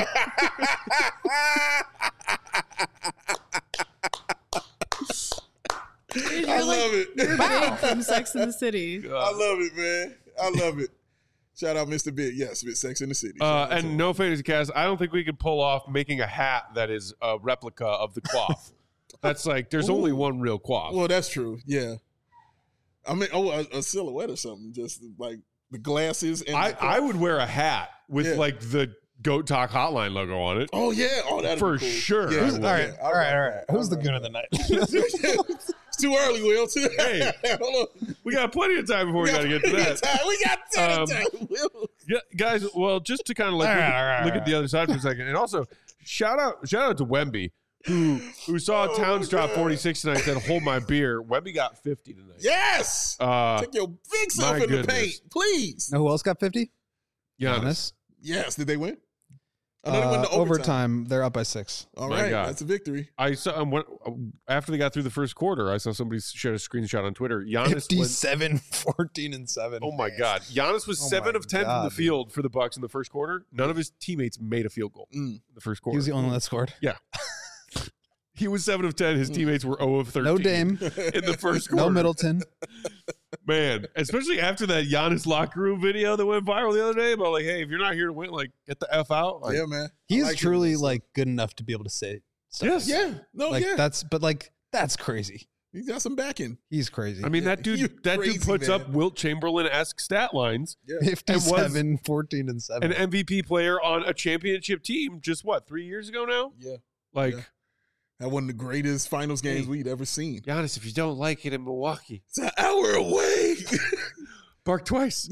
You're I like- love it. You're Big from Sex and the City. I love it, man. I love it. Shout out Mister Big. Yes, with Sex in the City. Uh, Shout out to and him. no fantasy cast. I don't think we could pull off making a hat that is a replica of the quaff. That's like, there's only Ooh. one real quaff. Well, that's true. Yeah. I mean, oh, a, a silhouette or something. Just like the glasses and I, the- I would wear a hat with Yeah. like the Goat Talk Hotline logo on it. Oh yeah. Oh, that For sure. Yeah, Who's- well, all right, yeah. all right, all right. Who's the right. goon of the night? It's too early, Will. Too- Hey. Hold on. We got plenty of time before we, got to get to plenty that. of time. We got plenty Um, of time, Will. Yeah, guys, well, just to kind of like All look, right, at, all right, look all at the other side for a second, and also shout out shout out to Wemby, who who saw Oh, Towns my drop God. forty-six tonight and said, "Hold my beer." Wemby got fifty tonight. Yes. Uh, Take your big self my in the goodness. paint, please. Know who else got fifty? Giannis. Yes. Did they win? I know they went Uh, to overtime. overtime. They're up by six. All My right, God. that's a victory. I saw um, when, uh, after they got through the first quarter, I saw somebody shared a screenshot on Twitter. Giannis went, fifty-seven, fourteen, and seven. oh my God, Giannis was Oh seven my of ten from God, the dude. field for the Bucks in the first quarter. None of his teammates made a field goal Mm. in the first He quarter. was the only one that scored. He was seven of ten. His teammates were zero of thirteen. No Dame, in the first quarter. no Middleton. Man, especially after that Giannis locker room video that went viral the other day about like, hey, if you're not here to win, like, get the F out. Like, Yeah, man. I He's like truly him. like good enough to be able to say stuff. yes. Yeah. No, Like yeah. that's, but like that's crazy. He's got some backing. He's crazy. I mean, Yeah, that dude, you're that crazy, dude puts man. up Wilt Chamberlain-esque stat lines. Yeah. fifty-seven, fourteen, and seven. An M V P player on a championship team just, what, three years ago now? Yeah. Like, Yeah. That one of the greatest finals games Hey. we'd ever seen. Giannis, if you don't like it in Milwaukee, It's an hour away. bark twice.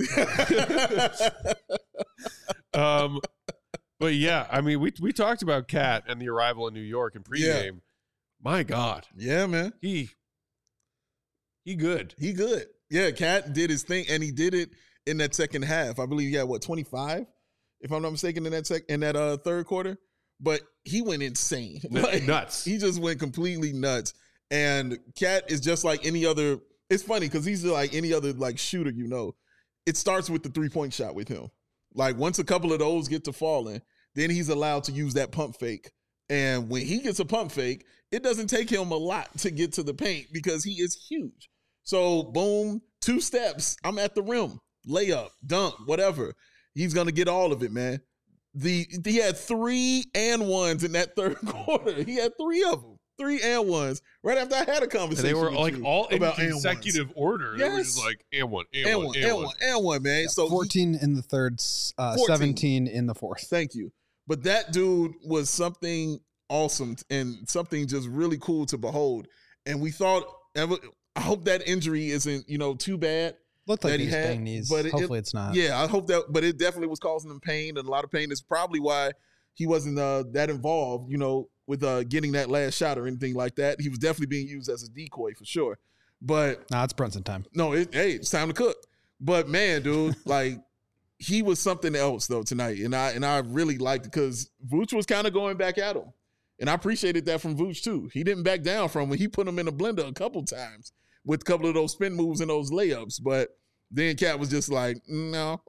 um, but yeah, I mean, we we talked about Cat and the arrival in New York in pregame. My God, Yeah, man. he he good. He good. Yeah, Cat did his thing, and he did it in that second half. I believe he had what twenty-five, if I'm not mistaken, in that sec in that uh, third quarter. But he went insane, like, nuts. He just went completely nuts. And Cat is just like any other. It's funny because he's like any other like shooter, you know. It starts with the three point shot with him. Like once a couple of those get to falling, then he's allowed to use that pump fake. And when he gets a pump fake, it doesn't take him a lot to get to the paint because he is huge. So boom, two steps, I'm at the rim, layup, dunk, whatever. He's gonna get all of it, man. The he had three and ones in that third quarter. He had three of them, three and ones. Right after I had a conversation, and they were with like you all in about and consecutive ones. order. They were Yes. just like and one, and, And one, one, and, and one. one, and one, man. So he- fourteen in the third, uh, fourteen. seventeen in the fourth. Thank you. But that dude was something awesome and something just really cool to behold. And we thought, I hope that injury isn't, you know, too bad. Looked like that he he was had, banged knees. but it- Hopefully it- it's not. Yeah, I hope that, but it definitely was causing him pain and a lot of pain. It's probably why he wasn't uh, that involved, you know, with uh, getting that last shot or anything like that. He was definitely being used as a decoy for sure. But Nah, it's Brunson time. no, it, hey, it's time to cook. But man, dude, like he was something else though tonight, and I and I really liked it because Vooch was kind of going back at him, and I appreciated that from Vooch too. He didn't back down from when he put him in the blender a couple times with a couple of those spin moves and those layups. But then Cat was just like, no,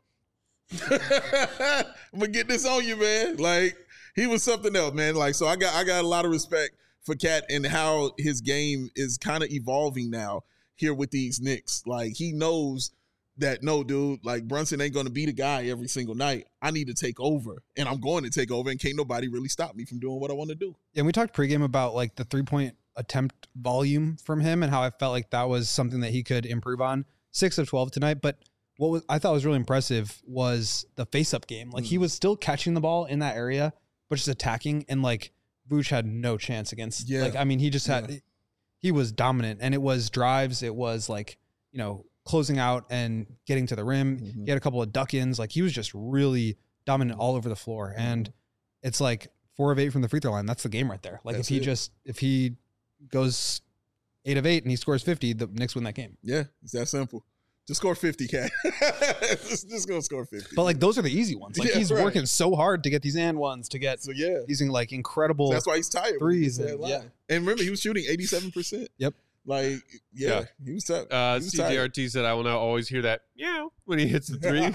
I'm gonna get this on you, man. Like he was something else, man. Like so, I got I got a lot of respect for Cat and how his game is kind of evolving now here with these Knicks. Like he knows that no, dude, like Brunson ain't gonna be the guy every single night. I need to take over, and I'm going to take over, and can't nobody really stop me from doing what I want to do. And we talked pregame about like the three point attempt volume from him and how I felt like that was something that he could improve on. Six of twelve tonight, but what was I thought was really impressive was the face up game. Like he was still catching the ball in that area, but just attacking, and like Vooch had no chance against. Yeah. Like I mean, he just had Yeah. he was dominant, and it was drives. It was like you know closing out and getting to the rim. Mhm. He had a couple of duck ins. Like he was just really dominant all over the floor, and it's like four of eight from the free throw line. That's the game right there. Like That's if he it. just if he goes eight of eight and he scores fifty, the Knicks win that game. Yeah, it's that simple. Just score fifty, Cat. just, just go score fifty. But like those are the easy ones. Like Yeah, he's right. working so hard to get these and ones to get so yeah, using like incredible. that's why he's tired. threes When he and- gets that yeah. line. And remember, he was shooting eighty-seven percent. Yep. Like, yeah, Yeah. he was tough. Uh, he was C J R T said, "I will now always hear that meow when he hits the three."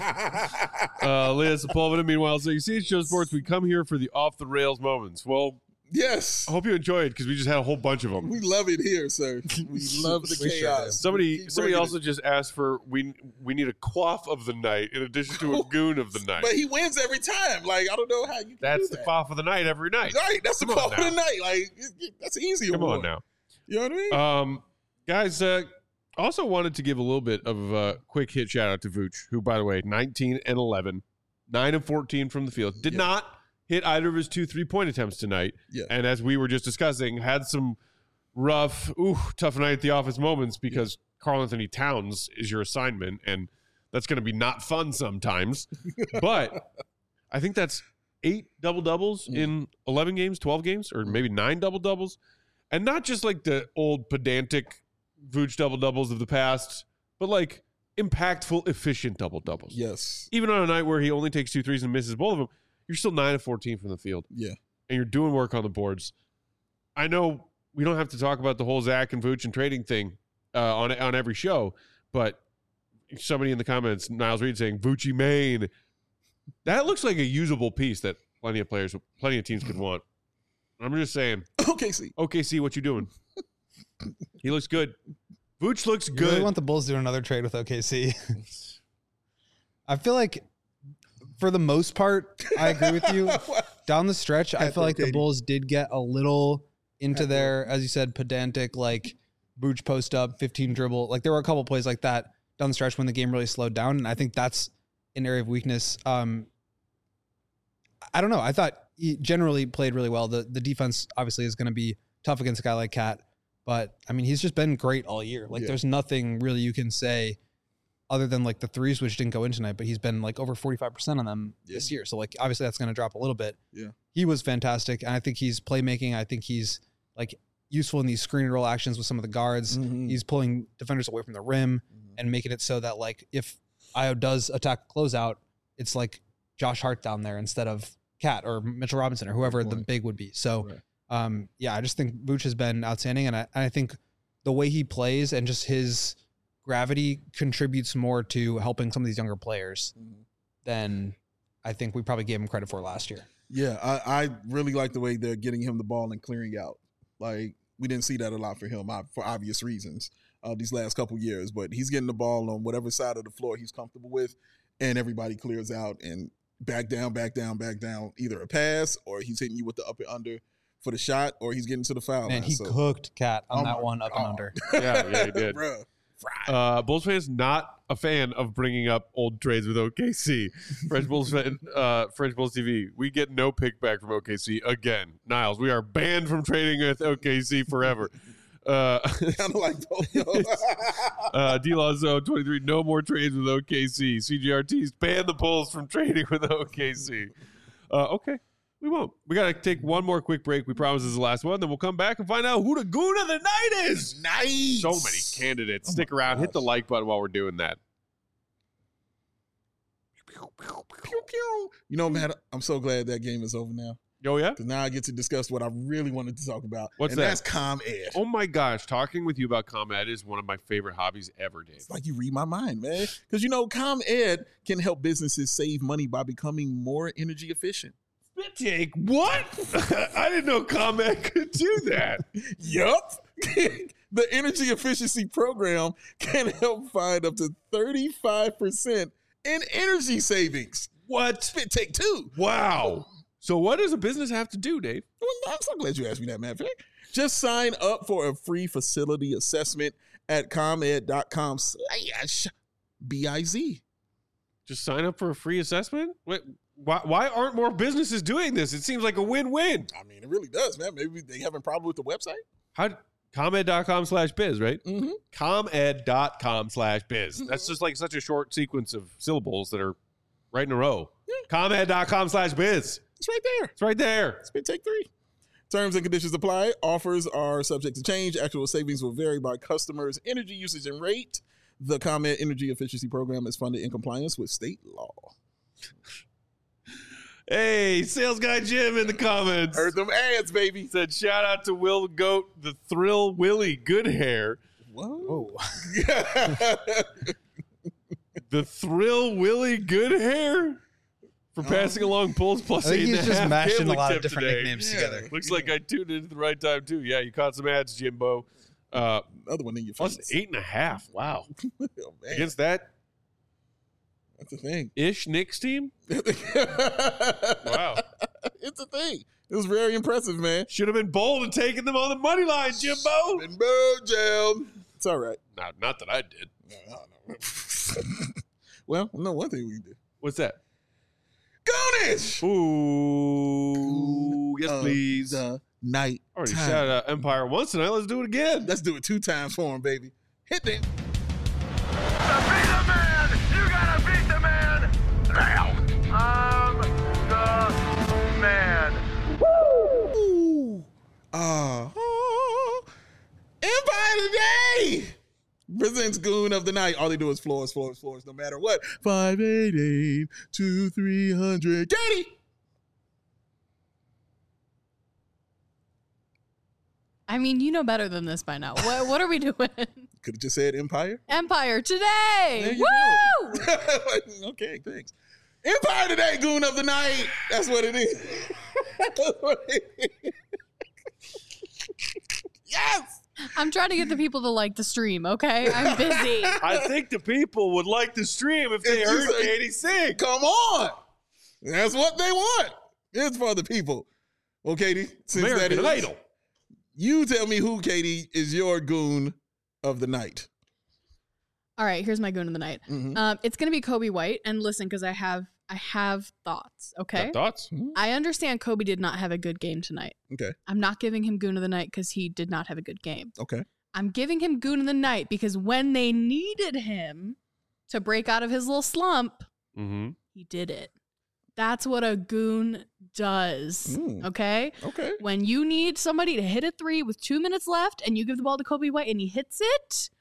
uh, Leah Sepulveda, meanwhile, saying, "C H G O Sports, we come here for the off the rails moments." Well, Yes. I hope you enjoyed because we just had a whole bunch of them. We love it here, sir. We love the We sure chaos. do. Somebody, Keep somebody bringing also it. just asked for we we need a quaff of the night in addition to a goon of the night. But he wins every time. Like, I don't know how you can That's do the that. quaff of the night every night. Right, that's the Come on call of the now. night. Like, it- it- that's an easy Come award. on now. You know what I mean? Um, guys, uh, also wanted to give a little bit of a quick hit shout out to Vooch, who, by the way, nineteen and eleven, nine and fourteen from the field. Did Yeah. not hit either of his two three-point attempts tonight. Yeah. And as we were just discussing, had some rough, ooh, tough night at the office moments because Karl Anthony Towns is your assignment, and that's going to be not fun sometimes. But I think that's eight double-doubles Mm. in eleven games, twelve games, or maybe nine double-doubles. And not just like the old pedantic Vooch double-doubles of the past, but like impactful, efficient double-doubles. Yes. Even on a night where he only takes two threes and misses both of them, you're still nine and fourteen from the field, Yeah. and you're doing work on the boards. I know we don't have to talk about the whole Zach and Vooch and trading thing uh, on on every show, but somebody in the comments, Niles Reed, saying Voochie Maine, that looks like a usable piece that plenty of players, plenty of teams could want. I'm just saying, Okay, see. O K C, what you doing? He looks good. Vooch looks You good. really want the Bulls to do another trade with O K C? I feel like, for the most part, I agree with you. Down the stretch, I Pat feel like the Katie. Bulls did get a little into Pat their, as you said, pedantic, like Vooch post up, fifteen dribble. Like there were a couple plays like that down the stretch when the game really slowed down, and I think that's an area of weakness. Um, I don't know. I thought he generally played really well. The the defense obviously is going to be tough against a guy like Cat, but I mean he's just been great all year. Like Yeah. there's nothing really you can say other than like the threes which didn't go in tonight, but he's been like over forty-five percent on them Yeah. this year. So like obviously that's going to drop a little bit. Yeah. He was fantastic, and I think he's playmaking. I think he's like useful in these screen and roll actions with some of the guards. Mhm. He's pulling defenders away from the rim Mhm. and making it so that like if Io does attack closeout, it's like Josh Hart down there instead of Cat or Mitchell Robinson or whoever the big would be. So, Right. um, yeah, I just think Vooch has been outstanding, and I, and I think the way he plays and just his gravity contributes more to helping some of these younger players Mhm. than I think we probably gave him credit for last year. Yeah, I, I really like the way they're getting him the ball and clearing out. Like, we didn't see that a lot for him uh, for obvious reasons uh, these last couple years. But he's getting the ball on whatever side of the floor he's comfortable with, and everybody clears out and back down, back down, back down. Either a pass or he's hitting you with the up and under for the shot, or he's getting to the foul Man, line. he So, cooked Cat on Oh that my one up and God. under. Yeah, yeah, he did. Bruh, fried. Uh, Bulls fans not a fan of bringing up old trades with O K C. French Bulls fan, uh, French Bulls T V. We get no pick back from O K C again. Niles, we are banned from trading with O K C forever. Uh, Kind of like both of those. uh, D Lazo twenty-three. No more trades with O K C. C G R T's ban the Bulls from trading with O K C. Uh, okay. We won't. We got to take one more quick break. We promise this is the last one. Then we'll come back and find out who the goon of the night is. Nice. So many candidates. Oh Stick my around. Hit the gosh. like button while we're doing that. Pew, pew. You know, man, I'm so glad that game is over now. Oh, yeah? Because now I get to discuss what I really wanted to talk about. What's and that? that's ComEd. Oh, my gosh. Talking with you about ComEd is one of my favorite hobbies ever, Dave. It's like you read my mind, man. Because, you know, ComEd can help businesses save money by becoming more energy efficient. Jake, what? I didn't know ComEd could do that. Yup. The energy efficiency program can help find up to thirty-five percent in energy savings. What? Spit take two. Wow. So what does a business have to do, Dave? Well, I'm so glad you asked me that, man. Just sign up for a free facility assessment at comed.com slash B-I-Z. Just sign up for a free assessment? Wait, why, why aren't more businesses doing this? It seems like a win-win. I mean, it really does, man. Maybe they having a problem with the website. How comed.com slash biz, right? Mm-hmm. comed.com slash biz. That's just like such a short sequence of syllables that are right in a row. comed.com slash biz. It's right there. It's right there. Spit take three. Terms and conditions apply. Offers are subject to change. Actual savings will vary by customers' energy usage and rate. The ComEd Energy Efficiency Program is funded in compliance with state law. Hey, sales guy Jim in the comments. Heard them ads, baby. Said shout out to Will Goat, the Thrill Willie Good Hair. Whoa. The Thrill Willie Good Hair for passing along Bulls plus I think eight and he's a just half mashing a gambling lot of tip different today. nicknames Yeah. together. Looks like I tuned in at the right time too. Yeah, you caught some ads, Jimbo. Uh, Another one in your plus face. eight and a half. Wow. Oh, man. Against that That's a thing. ish Knicks team. wow. It's a thing. It was very impressive, man. Should have been bold and taken them on the money line, Jimbo. And Mojo. It's all right. Not, not that I did. No, no, no. Well, no, one thing we did. What's that? Goonish! Ooh, yes, Of please. The night. Already time. shouted out Empire once tonight. Let's do it again. Let's do it two times for him, baby. Hit them. To be the man, you gotta beat the man now. I'm the man. Ooh. Uh, Empire Today presents Goon of the Night. All they do is floors, floors, floors, no matter what. five eight eight, two three hundred. Katie! I mean, you know better than this by now. What, what are we doing? Could have just said Empire. Empire Today. There you Woo! go. Okay, thanks. Empire Today, Goon of the Night. That's what it is. That's what it is. Yes! I'm trying to get the people to like the stream, okay? I'm busy. I think the people would like the stream if they If you heard say- Katie sing. Come on. That's what they want. It's for the people. Well, Katie, since that American is, Idol. you tell me who, Katie, is your Goon of the Night. All right, here's my goon of the night. Mhm. Um, it's gonna be Kobe White, and listen, because I have I have thoughts. Okay, Got thoughts? I understand Kobe did not have a good game tonight. Okay. I'm not giving him goon of the night because he did not have a good game. Okay. I'm giving him goon of the night because when they needed him to break out of his little slump, Mm-hmm. he did it. That's what a goon does. Mm. Okay. Okay. When you need somebody to hit a three with two minutes left and you give the ball to Kobe White and he hits it,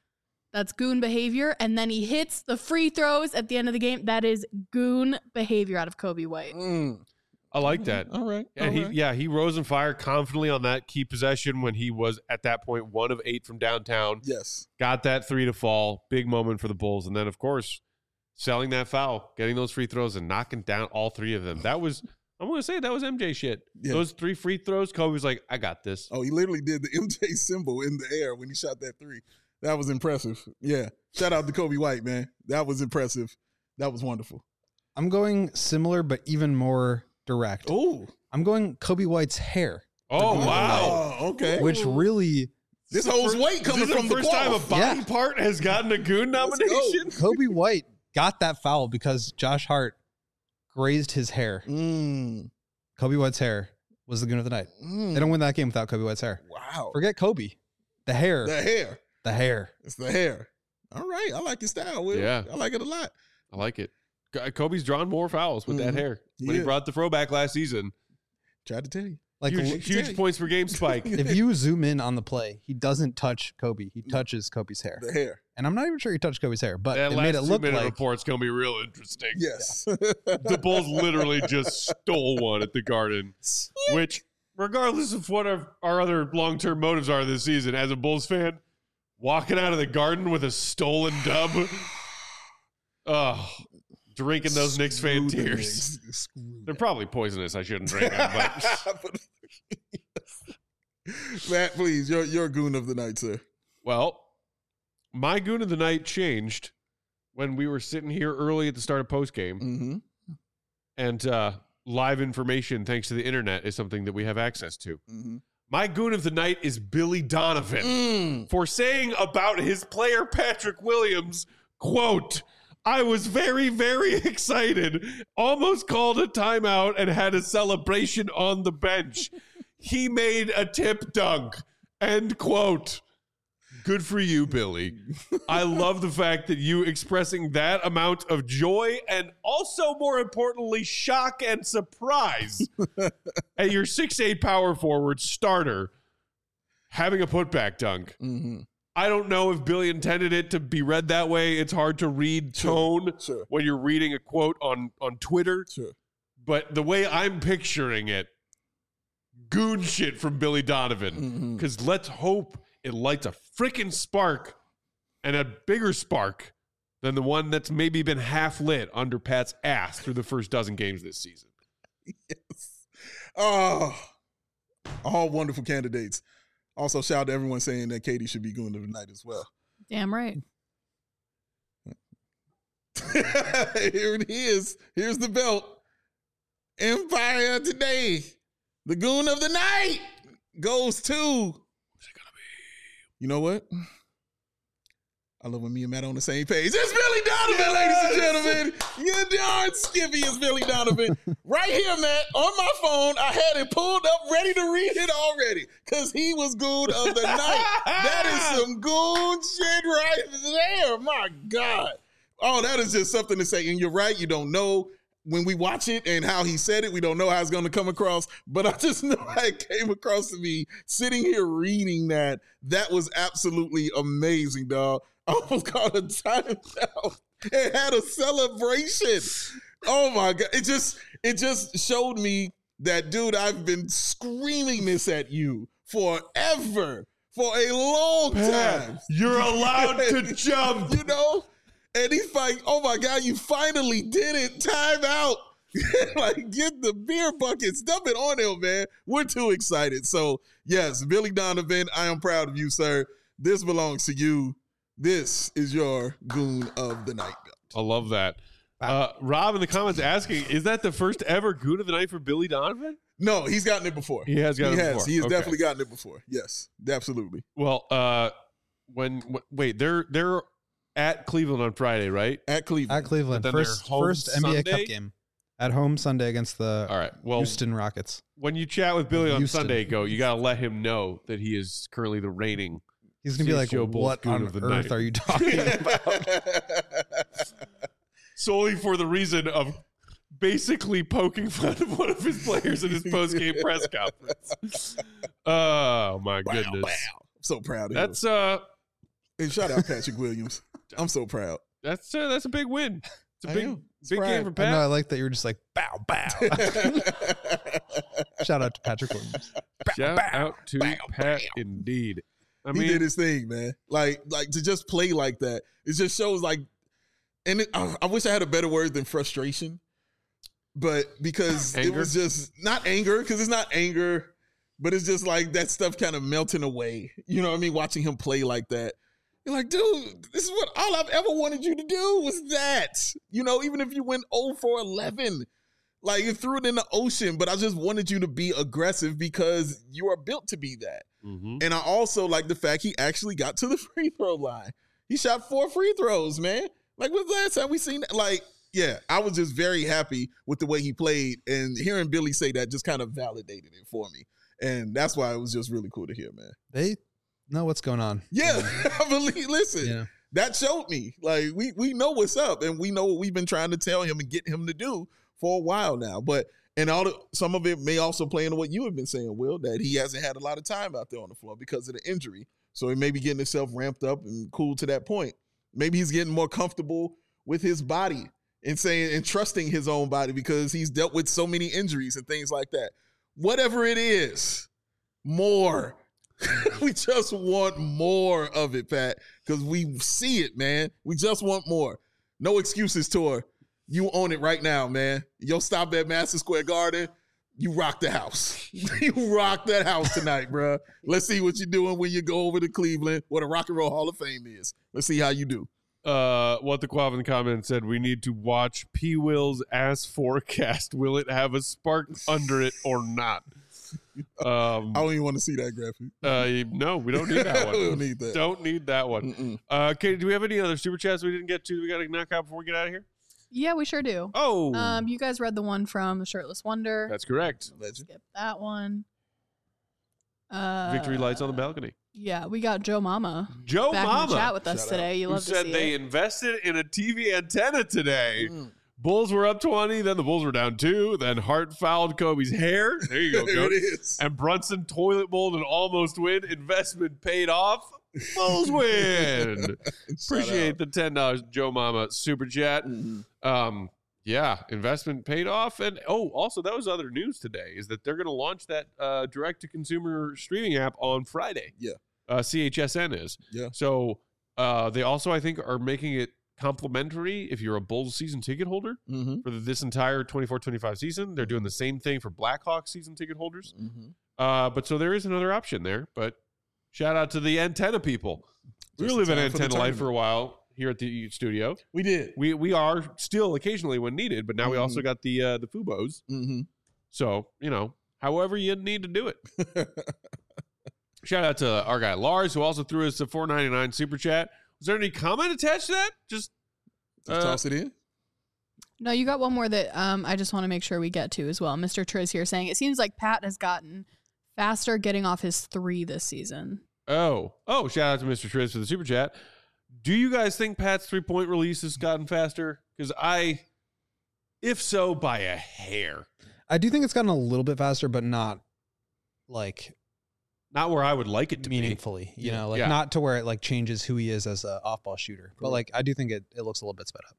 That's goon behavior. And then he hits the free throws at the end of the game. That is goon behavior out of Kobe White. Mm. I like that. All right. Yeah, all he right. yeah he rose and fired confidently on that key possession when he was at that point one of eight from downtown. Yes. Got that three to fall. Big moment for the Bulls, and then of course selling that foul, getting those free throws, and knocking down all three of them. That was I'm gonna say that was M J shit. Yeah. Those three free throws, Kobe was like, I got this. Oh, he literally did the M J symbol in the air when he shot that three. That was impressive. Yeah. Shout out to Kobe White, man. That was impressive. That was wonderful. I'm going similar, but even more direct. Oh. I'm going Kobe White's hair, Oh wow! Oh, okay. which really This holds weight coming This is from the the first time a quaff. body Yeah. part has gotten a goon Let's go. nomination. Kobe White got that foul because Josh Hart grazed his hair. Mm. Kobe White's hair was the goon of the night. Mm. They don't win that game without Kobe White's hair. Wow. Forget Kobe. The hair. The hair. The hair. It's the hair. All right. I like your style, Will. Yeah. I like it a lot. I like it. K- Kobe's drawn more fouls with that Mhm. hair He when he is. brought the throwback last season. Tried to tell you. Like huge l- huge points per game spike. if you zoom in on the play, he doesn't touch Kobe. He touches Kobe's hair. The hair. And I'm not even sure he touched Kobe's hair, but That it last made it look two-minute like report's gonna be real interesting. Yes. The Bulls literally just stole one at the Garden, which, regardless of what our, our other long-term motives are this season, as a Bulls fan, walking out of the Garden with a stolen dub, oh, drinking those Knicks fan Screw the tears. Knicks. Screw They're probably poisonous. I shouldn't drink them, but Matt, please, you're you're goon of the night, sir. well, my goon of the night changed when we were sitting here early at the start of postgame, Mm-hmm. and uh, live information, thanks to the internet, is something that we have access to. Mm-hmm. My goon of the night is Billy Donovan Mm. for saying about his player Patrick Williams, quote, I was very, very excited, almost called a timeout and had a celebration on the bench. He made a tip dunk, end quote. Good for you, Billy. I love the fact that you expressing that amount of joy and also, more importantly, shock and surprise at your six eight power forward starter having a putback dunk. Mm-hmm. I don't know if Billy intended it to be read that way. It's hard to read tone Sure. when you're reading a quote on, on Twitter. Sure. But the way I'm picturing it, goon shit from Billy Donovan. Mhm. Because let's hope it lights a freaking spark and a bigger spark than the one that's maybe been half lit under Pat's ass through the first dozen games this season. Yes. Oh, all wonderful candidates. Also, shout out to everyone saying that Katie should be goon of the night as well. Damn right. Here it is. Here's the belt. Empire today. The goon of the night goes to. Who's it gonna be? You know what? I love when me and Matt are on the same page. It's Billy Donovan, ladies and gentlemen. You darn skippy is Billy Donovan. Right here, Matt, on my phone. I had it pulled up, ready to read it already. Because he was goon of the night. That is some goon shit right there. My God. Oh, that is just something to say. And you're right, you don't know when we watch it and how he said it, we don't know how it's going to come across. But I just know how it came across to me sitting here reading that. That was absolutely amazing, dog. I almost called a timeout and had a celebration. Oh my God. It just, it just showed me that, dude, I've been screaming this at you forever, for a long time. You're allowed to jump. You know? And he's like, oh my God, you finally did it. Time out. Like, get the beer buckets. Dump it on him, man. We're too excited. So, yes, Billy Donovan, I am proud of you, sir. This belongs to you. This is your goon of the night. I love that. Uh, Rob in the comments asking, is that the first ever goon of the night for Billy Donovan? No, he's gotten it before. He has gotten he it has. before. He has Okay. definitely gotten it before. Yes, absolutely. Well, uh, when w- wait, they're they're at Cleveland on Friday, right? At Cleveland. at Cleveland. But then First, they're home first N B A Sunday? Cup game at home Sunday against the All right. Well, Houston Rockets. when you chat with Billy on Houston. Sunday, go. You got to let him know that he is currently the reigning. He's gonna be like, C H G O Bulls "What goon on of the earth night." are you talking about?" Solely for the reason of basically poking fun of one of his players in his post-game press conference. Oh my Wow, goodness. wow. I'm so proud of That's uh And shout out Patrick Williams. I'm so proud. That's uh, that's a big win. It's a I big am. It's big pride. game for I know. I Pat. like that you were just like bow bow. Shout out to Patrick Williams. Shout out to Pat, indeed. I he mean, did his thing, man. Like, like to just play like that, it just shows like, and it, I, I wish I had a better word than frustration, but because it Anger? was just not anger, because it's not anger, but it's just like that stuff kind of melting away. You know what I mean? Watching him play like that, you're like, dude, this is what all I've ever wanted you to do was that. You know, even if you went oh for eleven. Like you threw it in the ocean, but I just wanted you to be aggressive because you are built to be that. mhm. And I also like the fact he actually got to the free throw line. He shot four free throws, man. Like, when's the last time we seen that? Like, yeah, I was just very happy with the way he played. And hearing Billy say that just kind of validated it for me. And that's why it was just really cool to hear, man. They know what's going on. Yeah, I believe, listen, Yeah. that showed me. Like, we, we know what's up, and we know what we've been trying to tell him and get him to do for a while now. But and all the, some of it may also play into what you have been saying, Will, that he hasn't had a lot of time out there on the floor because of the injury. So he may be getting himself ramped up and cool to that point. Maybe he's getting more comfortable with his body and saying and trusting his own body because he's dealt with so many injuries and things like that. Whatever it is, more. We just want more of it, Pat, because we see it, man. We just want more. No excuses, Tour. You own it right now, man. Yo, stop at Madison Square Garden. You rock the house. You rock that house tonight, bro. Let's see what you're doing when you go over to Cleveland, where the Rock and Roll Hall of Fame is. Let's see how you do. Uh, what the Quav in the comments said, we need to watch P. Will's ass forecast. Will it have a spark under it or not? Um, I don't even want to see that graphic. uh, no, we don't need that one. We don't need that. Don't need that one. Mm-mm. Uh, Katie, do we have any other super chats we didn't get to? We got to knock out before we get out of here. Yeah, we sure do. Oh, Um, you guys read the one from the Shirtless Wonder. that's correct. Legend. Skip that one. Uh, Victory lights on the balcony. Yeah, we got Joe Mama Joe back in the chat Mama, with us Shout today. You who love to said see they it. invested in a T V antenna today. Mm. Bulls were up twenty, then the Bulls were down two, then Hart fouled Kobe's hair. There you go, There Coach. it is. And Brunson toilet bowled and almost win. Investment paid off. Bulls win. Appreciate the ten dollars Joe Mama super chat. Mhm. Um, yeah, investment paid off. And oh, also that was other news today is that they're going to launch that uh, direct to consumer streaming app on Friday. Yeah. Uh, C H S N is. Yeah. So uh, they also, I think, are making it complimentary if you're a Bulls season ticket holder Mm-hmm. for this entire twenty-four twenty-five season. They're doing the same thing for Blackhawks season ticket holders. Mm-hmm. Uh, but so there is another option there. But shout out to the antenna people. We Just were in living time for the antenna life for a tournament. while here at the studio. We did. We we are still occasionally when needed, but now we also Mhm. got the uh, the Fubos. Mm-hmm. So you know, however you need to do it. Shout out to our guy Lars, who also threw us a four ninety-nine super chat. Was there any comment attached to that? Just Just Uh, toss it in. No, you got one more that um, I just want to make sure we get to as well. Mister Triz here saying it seems like Pat has gotten faster getting off his three this season. oh oh. Shout out to Mister Triz for the super chat. Do you guys think Pat's three point release has gotten faster? Because I, if so, by a hair. I do think it's gotten a little bit faster, but not like Not where I would like it to meaningfully. You know, like Yeah. not to where it like changes who he is as a off ball shooter. But Correct. like I do think it, it looks a little bit sped up.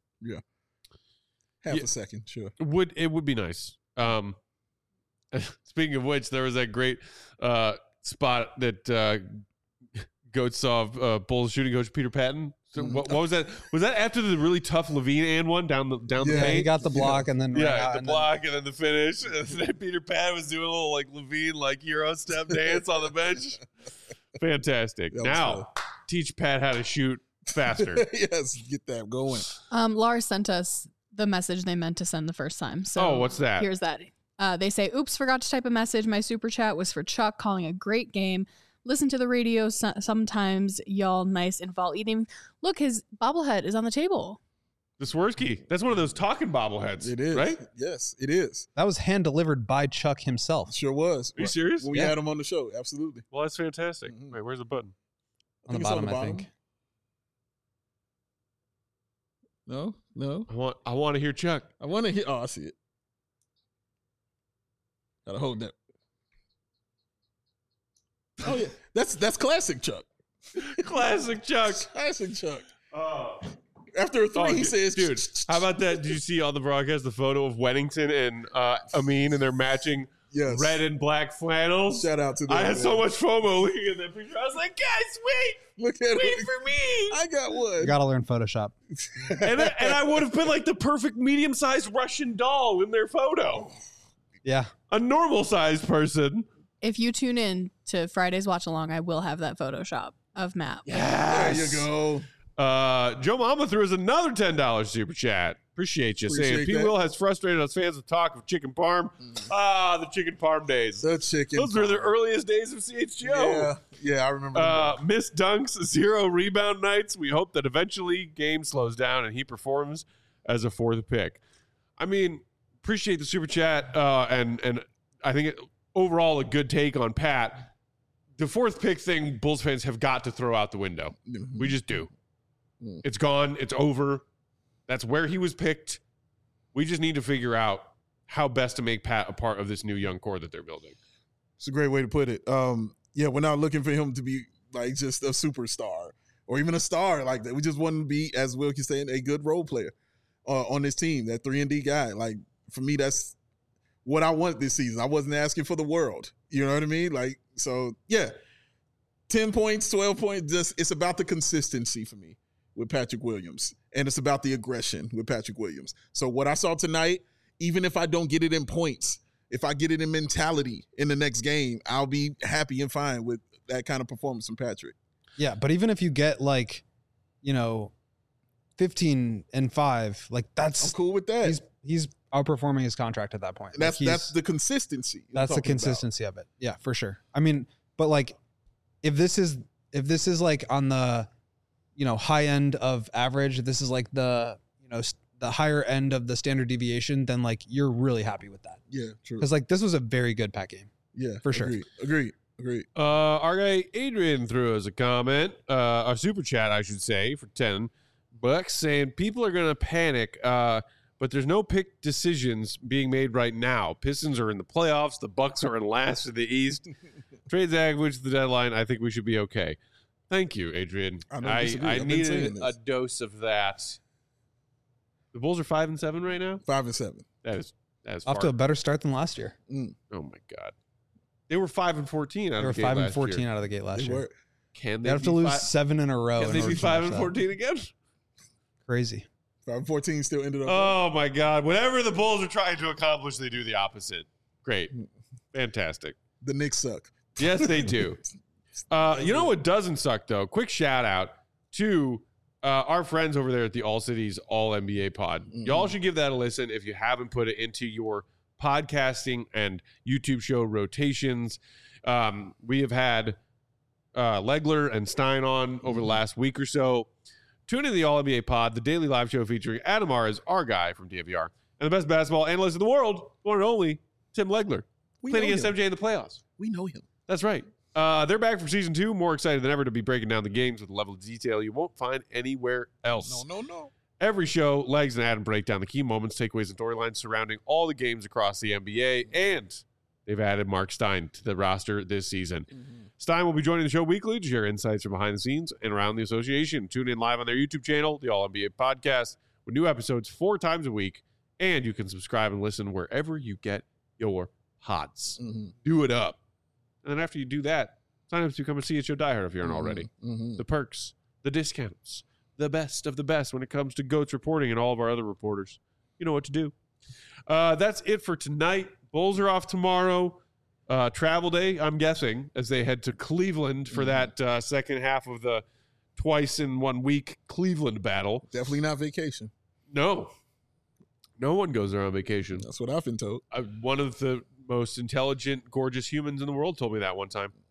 Half Yeah. a second, sure. be. Would it would be nice. Um, speaking of which, there was that great uh, spot that uh, Goat saw of uh, Bulls shooting coach Peter Patton. So Mhm. what, what was that? Was that after the really tough Levine and one down the down the Yeah, Yeah, paint? he got the block and then ran Yeah, out the and then- block and then the finish. And then Peter Pan was doing a little like Levine, like Euro step dance on the bench. Fantastic. That was Now, teach Pat how to shoot faster. Yes, get that going. Um, Lars sent us the message they meant to send the first time. So Oh, what's that? Here's that. Uh, they say, oops, forgot to type a message. My super chat was for Chuck calling a great game. Listen to the radio so- sometimes, y'all nice and fall eating. Look, his bobblehead is on the table. The Swirsky. That's one of those talking bobbleheads. It is. Right? Yes, it is. That was hand delivered by Chuck himself Sure was. Are you serious? When we Yeah. had him on the show, absolutely. Well, that's fantastic. Mhm. Wait, where's the button? on the think it's bottom, I think. No, no. I want I want to hear Chuck. I want to hear. Oh, I see it. Gotta hold that. Oh yeah, that's that's classic Chuck. Classic Chuck. Classic Chuck. Oh. After a three, Oh, he dude, says, dude, how about that? Did you see on the broadcast the photo of Weddington and uh, Amin and they're matching yes. red and black flannels? Shout out to them. I had man. so much FOMO looking at that picture. I was like, guys, wait, Look at wait it. for me. I got one. You gotta learn Photoshop. and, I, and I would have been like the perfect medium-sized Russian doll in their photo. Yeah. A normal-sized person. If you tune in to Friday's watch along, I will have that Photoshop of Matt. There you go. Uh, Joe Mama threw us another ten dollars super chat. Appreciate you. Appreciate saying P. that. Will has frustrated us fans with talk of chicken parm. Ah, the chicken parm days. The chicken. Those were the earliest days of C H G O. Yeah, yeah, I remember. Uh, Miss Dunks, zero rebound nights. We hope that eventually game slows down and he performs as a fourth pick. I mean, appreciate the super chat, uh, and and I think it, overall a good take on Pat. The fourth pick thing, Bulls fans have got to throw out the window. We just do. Mm. It's gone. It's over. That's where he was picked. We just need to figure out how best to make Pat a part of this new young core that they're building. It's a great way to put it. Um, yeah, we're not looking for him to be like just a superstar or even a star like that. We just want him to be, as Wilkie saying, a good role player uh, on this team, that three and D guy. Like, for me, that's what I want this season. I wasn't asking for the world. You know what I mean? Like, so, yeah. ten points, twelve points, just it's about the consistency for me with Patrick Williams. And it's about the aggression with Patrick Williams. So what I saw tonight, even if I don't get it in points, if I get it in mentality in the next game, I'll be happy and fine with that kind of performance from Patrick. Yeah, but even if you get like, you know, fifteen and five, like that's I'm cool with that. he's he's outperforming his contract at that point. Like, That's he's- that's the consistency. I'm that's the talking about. consistency of it. Yeah, for sure. I mean, but like if this is if this is like on the, you know, high end of average, if this is like the, you know, s- the higher end of the standard deviation, then like you're really happy with that. Yeah, true. Because like this was a very good Pat game. Yeah, for sure. Agreed. Agreed. Agreed. Uh, our guy Adrian threw us a comment, uh, a super chat, I should say, for ten bucks, saying people are gonna panic, uh, but there's no pick decisions being made right now. Pistons are in the playoffs. The Bucks are in last in the East. Trades average the deadline. I think we should be okay. Thank you, Adrian. I don't I, disagree. I I've been saying needed this. a dose of that. The Bulls are five and seven right now. Five and seven. That is that is Off far. to a better start than last year. Mm, Oh my god, they were five and fourteen. Out They were of the gate five and last fourteen year. out of the gate last they year. were. Can They they have to be lose fi- seven in a row. Can in they order be to five match and that. fourteen again? Crazy. Five and fourteen still ended up. Oh my God! Whatever the Bulls are trying to accomplish, they do the opposite. Great, fantastic. the Knicks suck. Yes, they do. Uh, you know what doesn't suck though? Quick shout out to uh, our friends over there at the All Cities All N B A Pod. Mhm. Y'all should give that a listen if you haven't put it into your podcasting and YouTube show rotations. Um, we have had uh, Legler and Stein on over the last week or so. Tune in to the All N B A Pod, the daily live show featuring Adam Aras, our guy from D V R, and the best basketball analyst in the world, one and only Tim Legler, We playing know against him. M J in the playoffs. We know him. That's right. Uh, they're back for season two. More excited than ever to be breaking down the games with a level of detail you won't find anywhere else. No, no, no. Every show, Legs and Adam break down the key moments, takeaways, and storylines surrounding all the games across the N B A. And they've added Mark Stein to the roster this season. Stein will be joining the show weekly to share insights from behind the scenes and around the association. Tune in live on their YouTube channel, the All N B A Podcast, with new episodes four times a week. And you can subscribe and listen wherever you get your pods. Mhm. Do it up. And then after you do that, sign up to become a C H O diehard if you aren't already. Mhm. The perks, the discounts, the best of the best when it comes to GOATS reporting and all of our other reporters. You know what to do. Uh, that's it for tonight. Bulls are off tomorrow. Uh, travel day, I'm guessing, as they head to Cleveland for that uh, second half of the twice in one week Cleveland battle. Definitely not vacation. No. No one goes there on vacation. That's what I've been told. Uh, one of the most intelligent, gorgeous humans in the world told me that one time.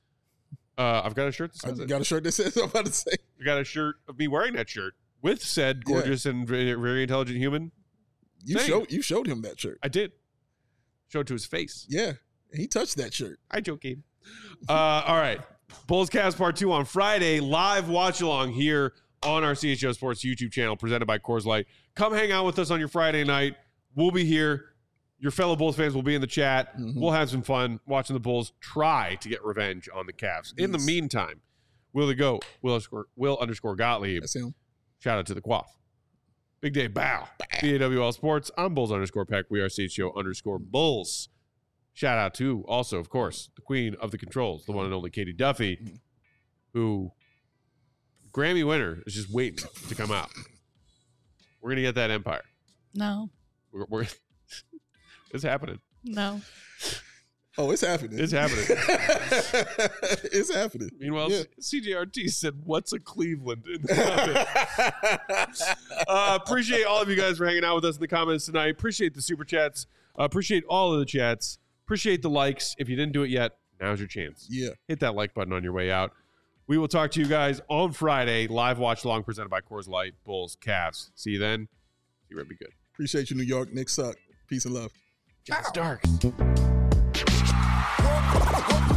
Uh, I've got a shirt that I says it. got a shirt that says I'm about to say. I got a shirt of me wearing that shirt with said Yeah. gorgeous and very, very intelligent human. You Same. showed you showed him that shirt. I did. Showed it to his face. Yeah. He touched that shirt. I joking. Uh, all right. Bulls Cast Part two on Friday. Live watch along here on our C H O Sports YouTube channel presented by Coors Light. Come hang out with us on your Friday night. We'll be here. Your fellow Bulls fans will be in the chat. Mhm. We'll have some fun watching the Bulls try to get revenge on the Cavs. In the Yes. meantime, Will the Goat, Will underscore, Will underscore Gottlieb. That's him. Shout out to the Quaff. Big Day Bow. B A W L Sports. I'm Bulls underscore Peck. We are C H G O underscore Bulls. Shout out to also, of course, the queen of the controls, the one and only Katie Duffy, who Grammy winner is just waiting to come out. We're going to get that empire. No. We're, we're It's happening. No. Oh, it's happening. It's happening. It's happening. Meanwhile, Yeah. C J R T said, "What's a Cleveland?" in the comments. uh, appreciate all of you guys for hanging out with us in the comments tonight. Appreciate the super chats. Uh, appreciate all of the chats. Appreciate the likes. If you didn't do it yet, now's your chance. Yeah. Hit that like button on your way out. We will talk to you guys on Friday. Live watch along presented by Coors Light, Bulls, Cavs. See you then. See you, Red. Be good. Appreciate you, New York. Knicks suck. Peace and love. It's dark. Whoa, whoa, whoa.